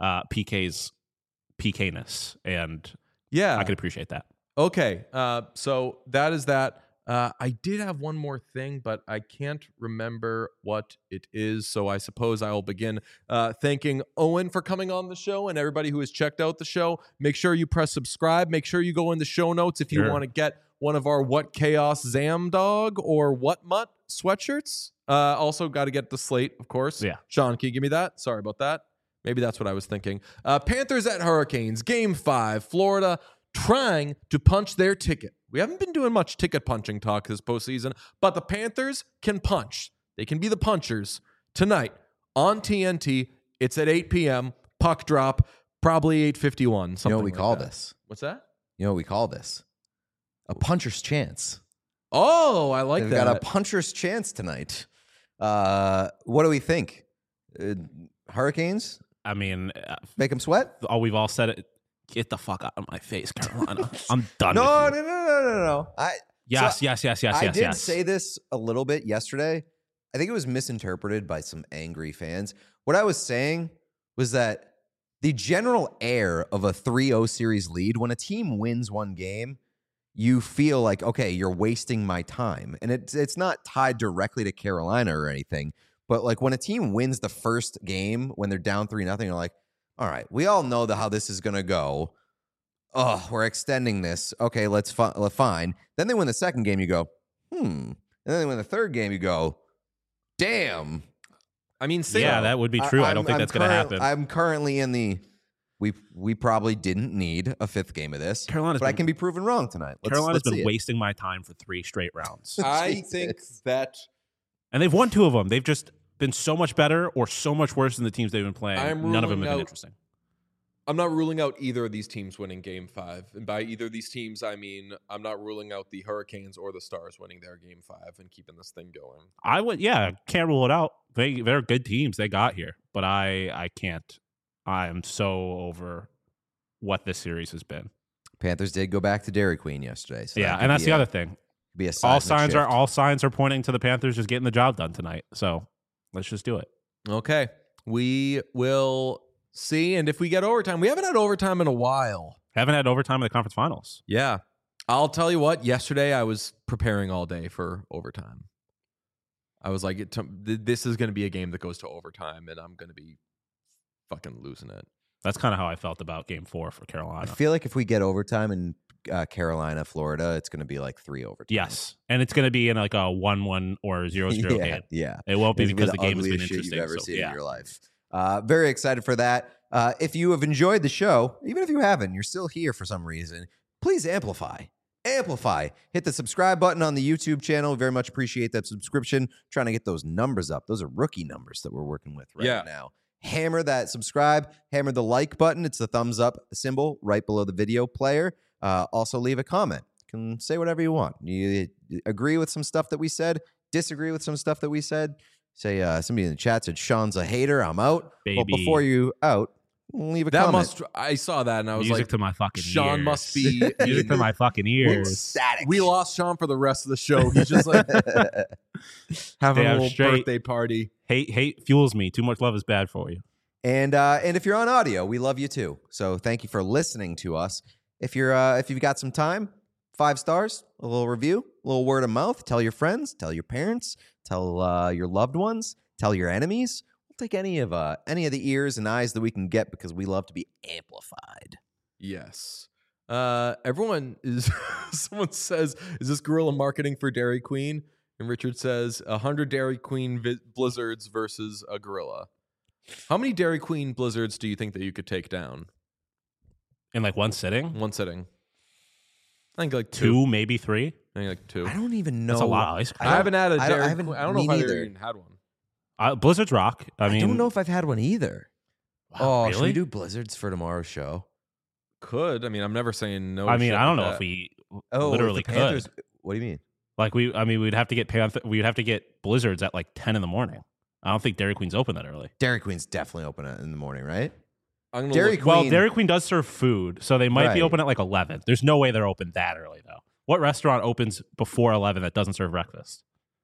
PK's PK-ness. And Yeah. I could appreciate that. Okay. So that is that. I did have one more thing, but I can't remember what it is. So I suppose I will begin thanking Owen for coming on the show and everybody who has checked out the show. Make sure you press subscribe. Make sure you go in the show notes if you Sure. want to get one of our What Chaos Zam Dog or What Mutt sweatshirts. Also got to get the slate, of course. Yeah. Sean, can you give me that? Sorry about that. Maybe that's what I was thinking. Panthers at Hurricanes, Game 5. Florida trying to punch their ticket. We haven't been doing much ticket punching talk this postseason, but the Panthers can punch. They can be the punchers tonight on TNT. It's at 8 p.m. Puck drop, probably 8:51. You Something know what we like call that. this? What's that? You know what we call this? A puncher's chance. Oh, I like They've that. got a puncher's chance tonight. What do we think? Hurricanes? I mean, Make them sweat? we've all said it. Get the fuck out of my face, Carolina. I'm done No, with no, you. no. Yes, So yes. I did say this a little bit yesterday. I think it was misinterpreted by some angry fans. What I was saying was that the general air of a 3-0 series lead, when a team wins one game, you feel like, okay, you're wasting my time. And it's not tied directly to Carolina or anything. But like when a team wins the first game, when they're down 3-0, you're like, all right, we all know how this is going to go. Oh, we're extending this. Okay, let's fine. Then they win the second game, you go, And then they win the third game, you go, damn. I mean, Yeah, that would be true. I don't think that's going to happen. I'm currently in the, we probably didn't need a fifth game of this. Carolina's but I been- can be proven wrong tonight. Carolina's let's see been it. wasting my time for 3 straight rounds. I Jesus. think that And they've won 2 of them. They've just been so much better or so much worse than the teams they've been playing. I'm None of them ruling have been out- interesting. I'm not ruling out either of these teams winning Game 5. And by either of these teams, I mean I'm not ruling out the Hurricanes or the Stars winning their Game 5 and keeping this thing going. I would, can't rule it out. They're good teams. They got here, but I can't. I am so over what this series has been. Panthers did go back to Dairy Queen yesterday. So Yeah, that and could that's be the a- other thing. Be a All seismic signs shift. are pointing to the Panthers just getting the job done tonight. So let's just do it. Okay. We will see. And if we get overtime, we haven't had overtime in a while. Haven't had overtime in the conference finals. Yeah. I'll tell you what, yesterday I was preparing all day for overtime. I was like, this is going to be a game that goes to overtime, and I'm going to be fucking losing it. That's kind of how I felt about Game 4 for I Carolina. feel like if we get overtime in Carolina, Florida, it's going to be like 3 overtime. Yes, and it's going to be in like a 1-1 or 0-0 yeah, game. yeah. It won't be It's gonna because the game has been ugliest shit interesting. you've ever So, seen yeah. in your life. Very excited for that. If you have enjoyed the show, even if you haven't, you're still here for some reason, please amplify. Hit the subscribe button on the YouTube channel. Very much appreciate that subscription. Trying to get those numbers up. Those are rookie numbers that we're working with right now. Hammer that subscribe. Hammer the like button. It's the thumbs up symbol right below the video player. Also leave a comment. You can say whatever you want. You agree with some stuff that we said, disagree with some stuff that we said. Say somebody in the chat said Sean's a hater. I'm out. Well, Baby. before you out, leave a comment. I saw that and I was Music like, to my fucking Sean ears. must be Music to my fucking ears. Ecstatic. We lost Sean for the rest of the show. He's just like having a Damn little straight. birthday party. Hate fuels me. Too much love is bad for you. And if you're on audio, we love you too. So thank you for listening to us. If you've got some time, 5 stars, a little review, a little word of mouth. Tell your friends, tell your parents, tell your loved ones, tell your enemies. We'll take any of the ears and eyes that we can get because we love to be amplified. Yes. Everyone is. Someone says, "Is this guerrilla marketing for Dairy Queen?" And Richard says, 100 Dairy Queen blizzards versus a gorilla. How many Dairy Queen blizzards do you think that you could take down? In like one sitting? One sitting. I think like 2. 2, maybe 3. Maybe like 2. I don't even know. That's a lot of ice cream. I haven't had a I Dairy haven't- Queen. I don't know me if I've neither. even had one. Blizzard's rock. I mean, don't know if I've had one either. wow, Should we really? do Blizzards for tomorrow's show? Could. I mean, I'm never saying no. I mean, shit I don't like know that. if we Oh, literally if the Panthers, could. What do you mean? Like we'd have to get we'd have to get Blizzards at like 10 in the morning. I don't think Dairy Queen's open that early. Dairy Queen's definitely open in the morning, right? I'm gonna Dairy look- Queen. Well, Dairy Queen does serve food, so they might be Right. open at like 11. There's no way they're open that early though. What restaurant opens before 11 that doesn't serve breakfast?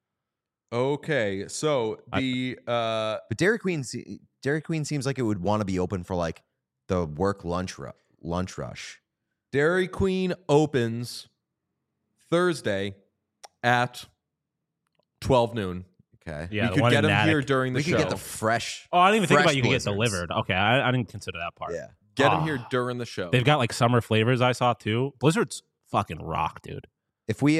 Okay, so the But Dairy Queen seems like it would want to be open for like the work lunch rush. Dairy Queen opens Thursday at 12 noon. Okay. Yeah, we the one could in get them here Natick. during the We show. could get the fresh. Oh, I didn't even think fresh about you could get Blizzards. delivered. Okay, I didn't consider that part. Yeah. Get them Ah. here during the show. They've got like summer flavors I saw too. Blizzard's fucking rock, dude. If we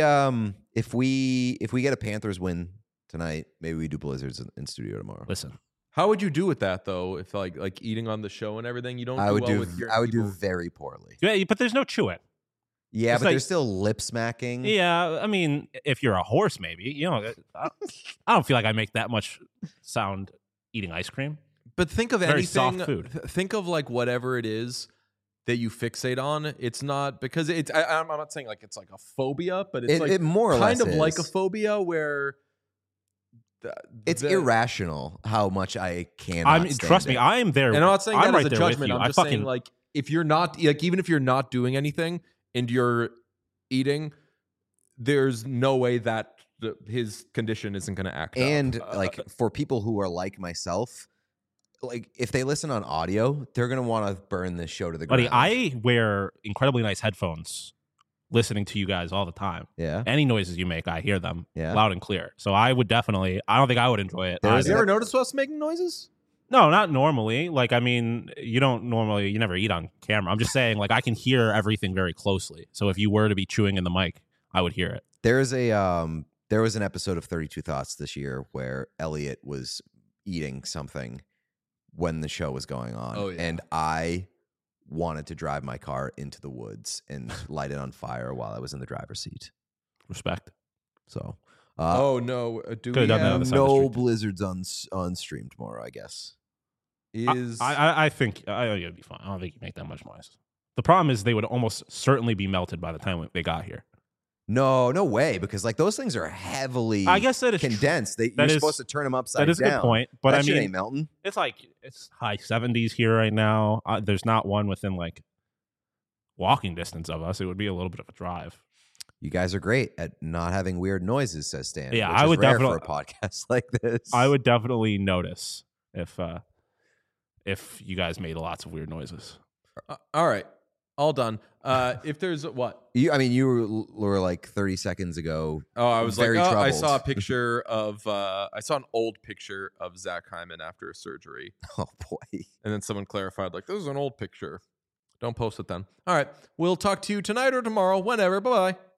get a Panthers win tonight, maybe we do Blizzards in studio tomorrow. Listen, How would you do with that though? If like eating on the show and everything, you don't. I would well do. with your I would do people. very poorly. yeah, but there's no chewing. Yeah, It's but like- there's still lip smacking. Yeah, I mean, if you're a horse, maybe I don't feel like I make that much sound eating ice cream. But think of Very anything. soft food. Think of like whatever it is that you fixate on. It's not because it's. I'm not saying like it's like a phobia, but it's like it more or kind less of like a is. phobia where. It's the- irrational how much I can. I mean, trust me, I am there. And I'm not saying I'm that right as a there with judgment. you. I'm I just fucking saying like if you're not like even if you're not doing anything and you're eating, there's no way that his condition isn't going to act. And up. like for people who are like myself, like if they listen on audio, they're gonna want to burn this show to the buddy, ground. I wear incredibly nice headphones listening to you guys all the time. Yeah. Any noises you make, I hear them Yeah. loud and clear. So I would definitely, I don't think I would enjoy it. There is you either. ever notice us making noises? No, not normally. Like, I mean, you never eat on camera. I'm just saying, like, I can hear everything very closely. So if you were to be chewing in the mic, I would hear it. There was an episode of 32 Thoughts this year where Elliot was eating something when the show was going on. Oh, yeah. And I wanted to drive my car into the woods and light it on fire while I was in the driver's seat. Respect. So Oh no! Do Could've we done that on have the side of the no street. Blizzards on stream tomorrow, I guess. is I think it'd be fine. I don't think you make that much noise. The problem is they would almost certainly be melted by the time they got here. No way, because like those things are heavily I guess that is condensed. You're that is- supposed to turn them upside That is a down. good point. But that I shit mean, ain't melting. it's like it's high 70s here right now. There's not one within like walking distance of us. It would be a little bit of a drive. You guys are great at not having weird noises, says Stan. Yeah, which I is would rare definitely- for a podcast like this. I would definitely notice if you guys made lots of weird noises. all right. All done. If there's what? You were like 30 seconds ago. Oh, I was Very like, I troubled. saw a picture of. I saw an old picture of Zach Hyman after a surgery, Oh boy. and then someone clarified, like, "This is an old picture. Don't post it then." All right, we'll talk to you tonight or tomorrow, whenever. Bye bye.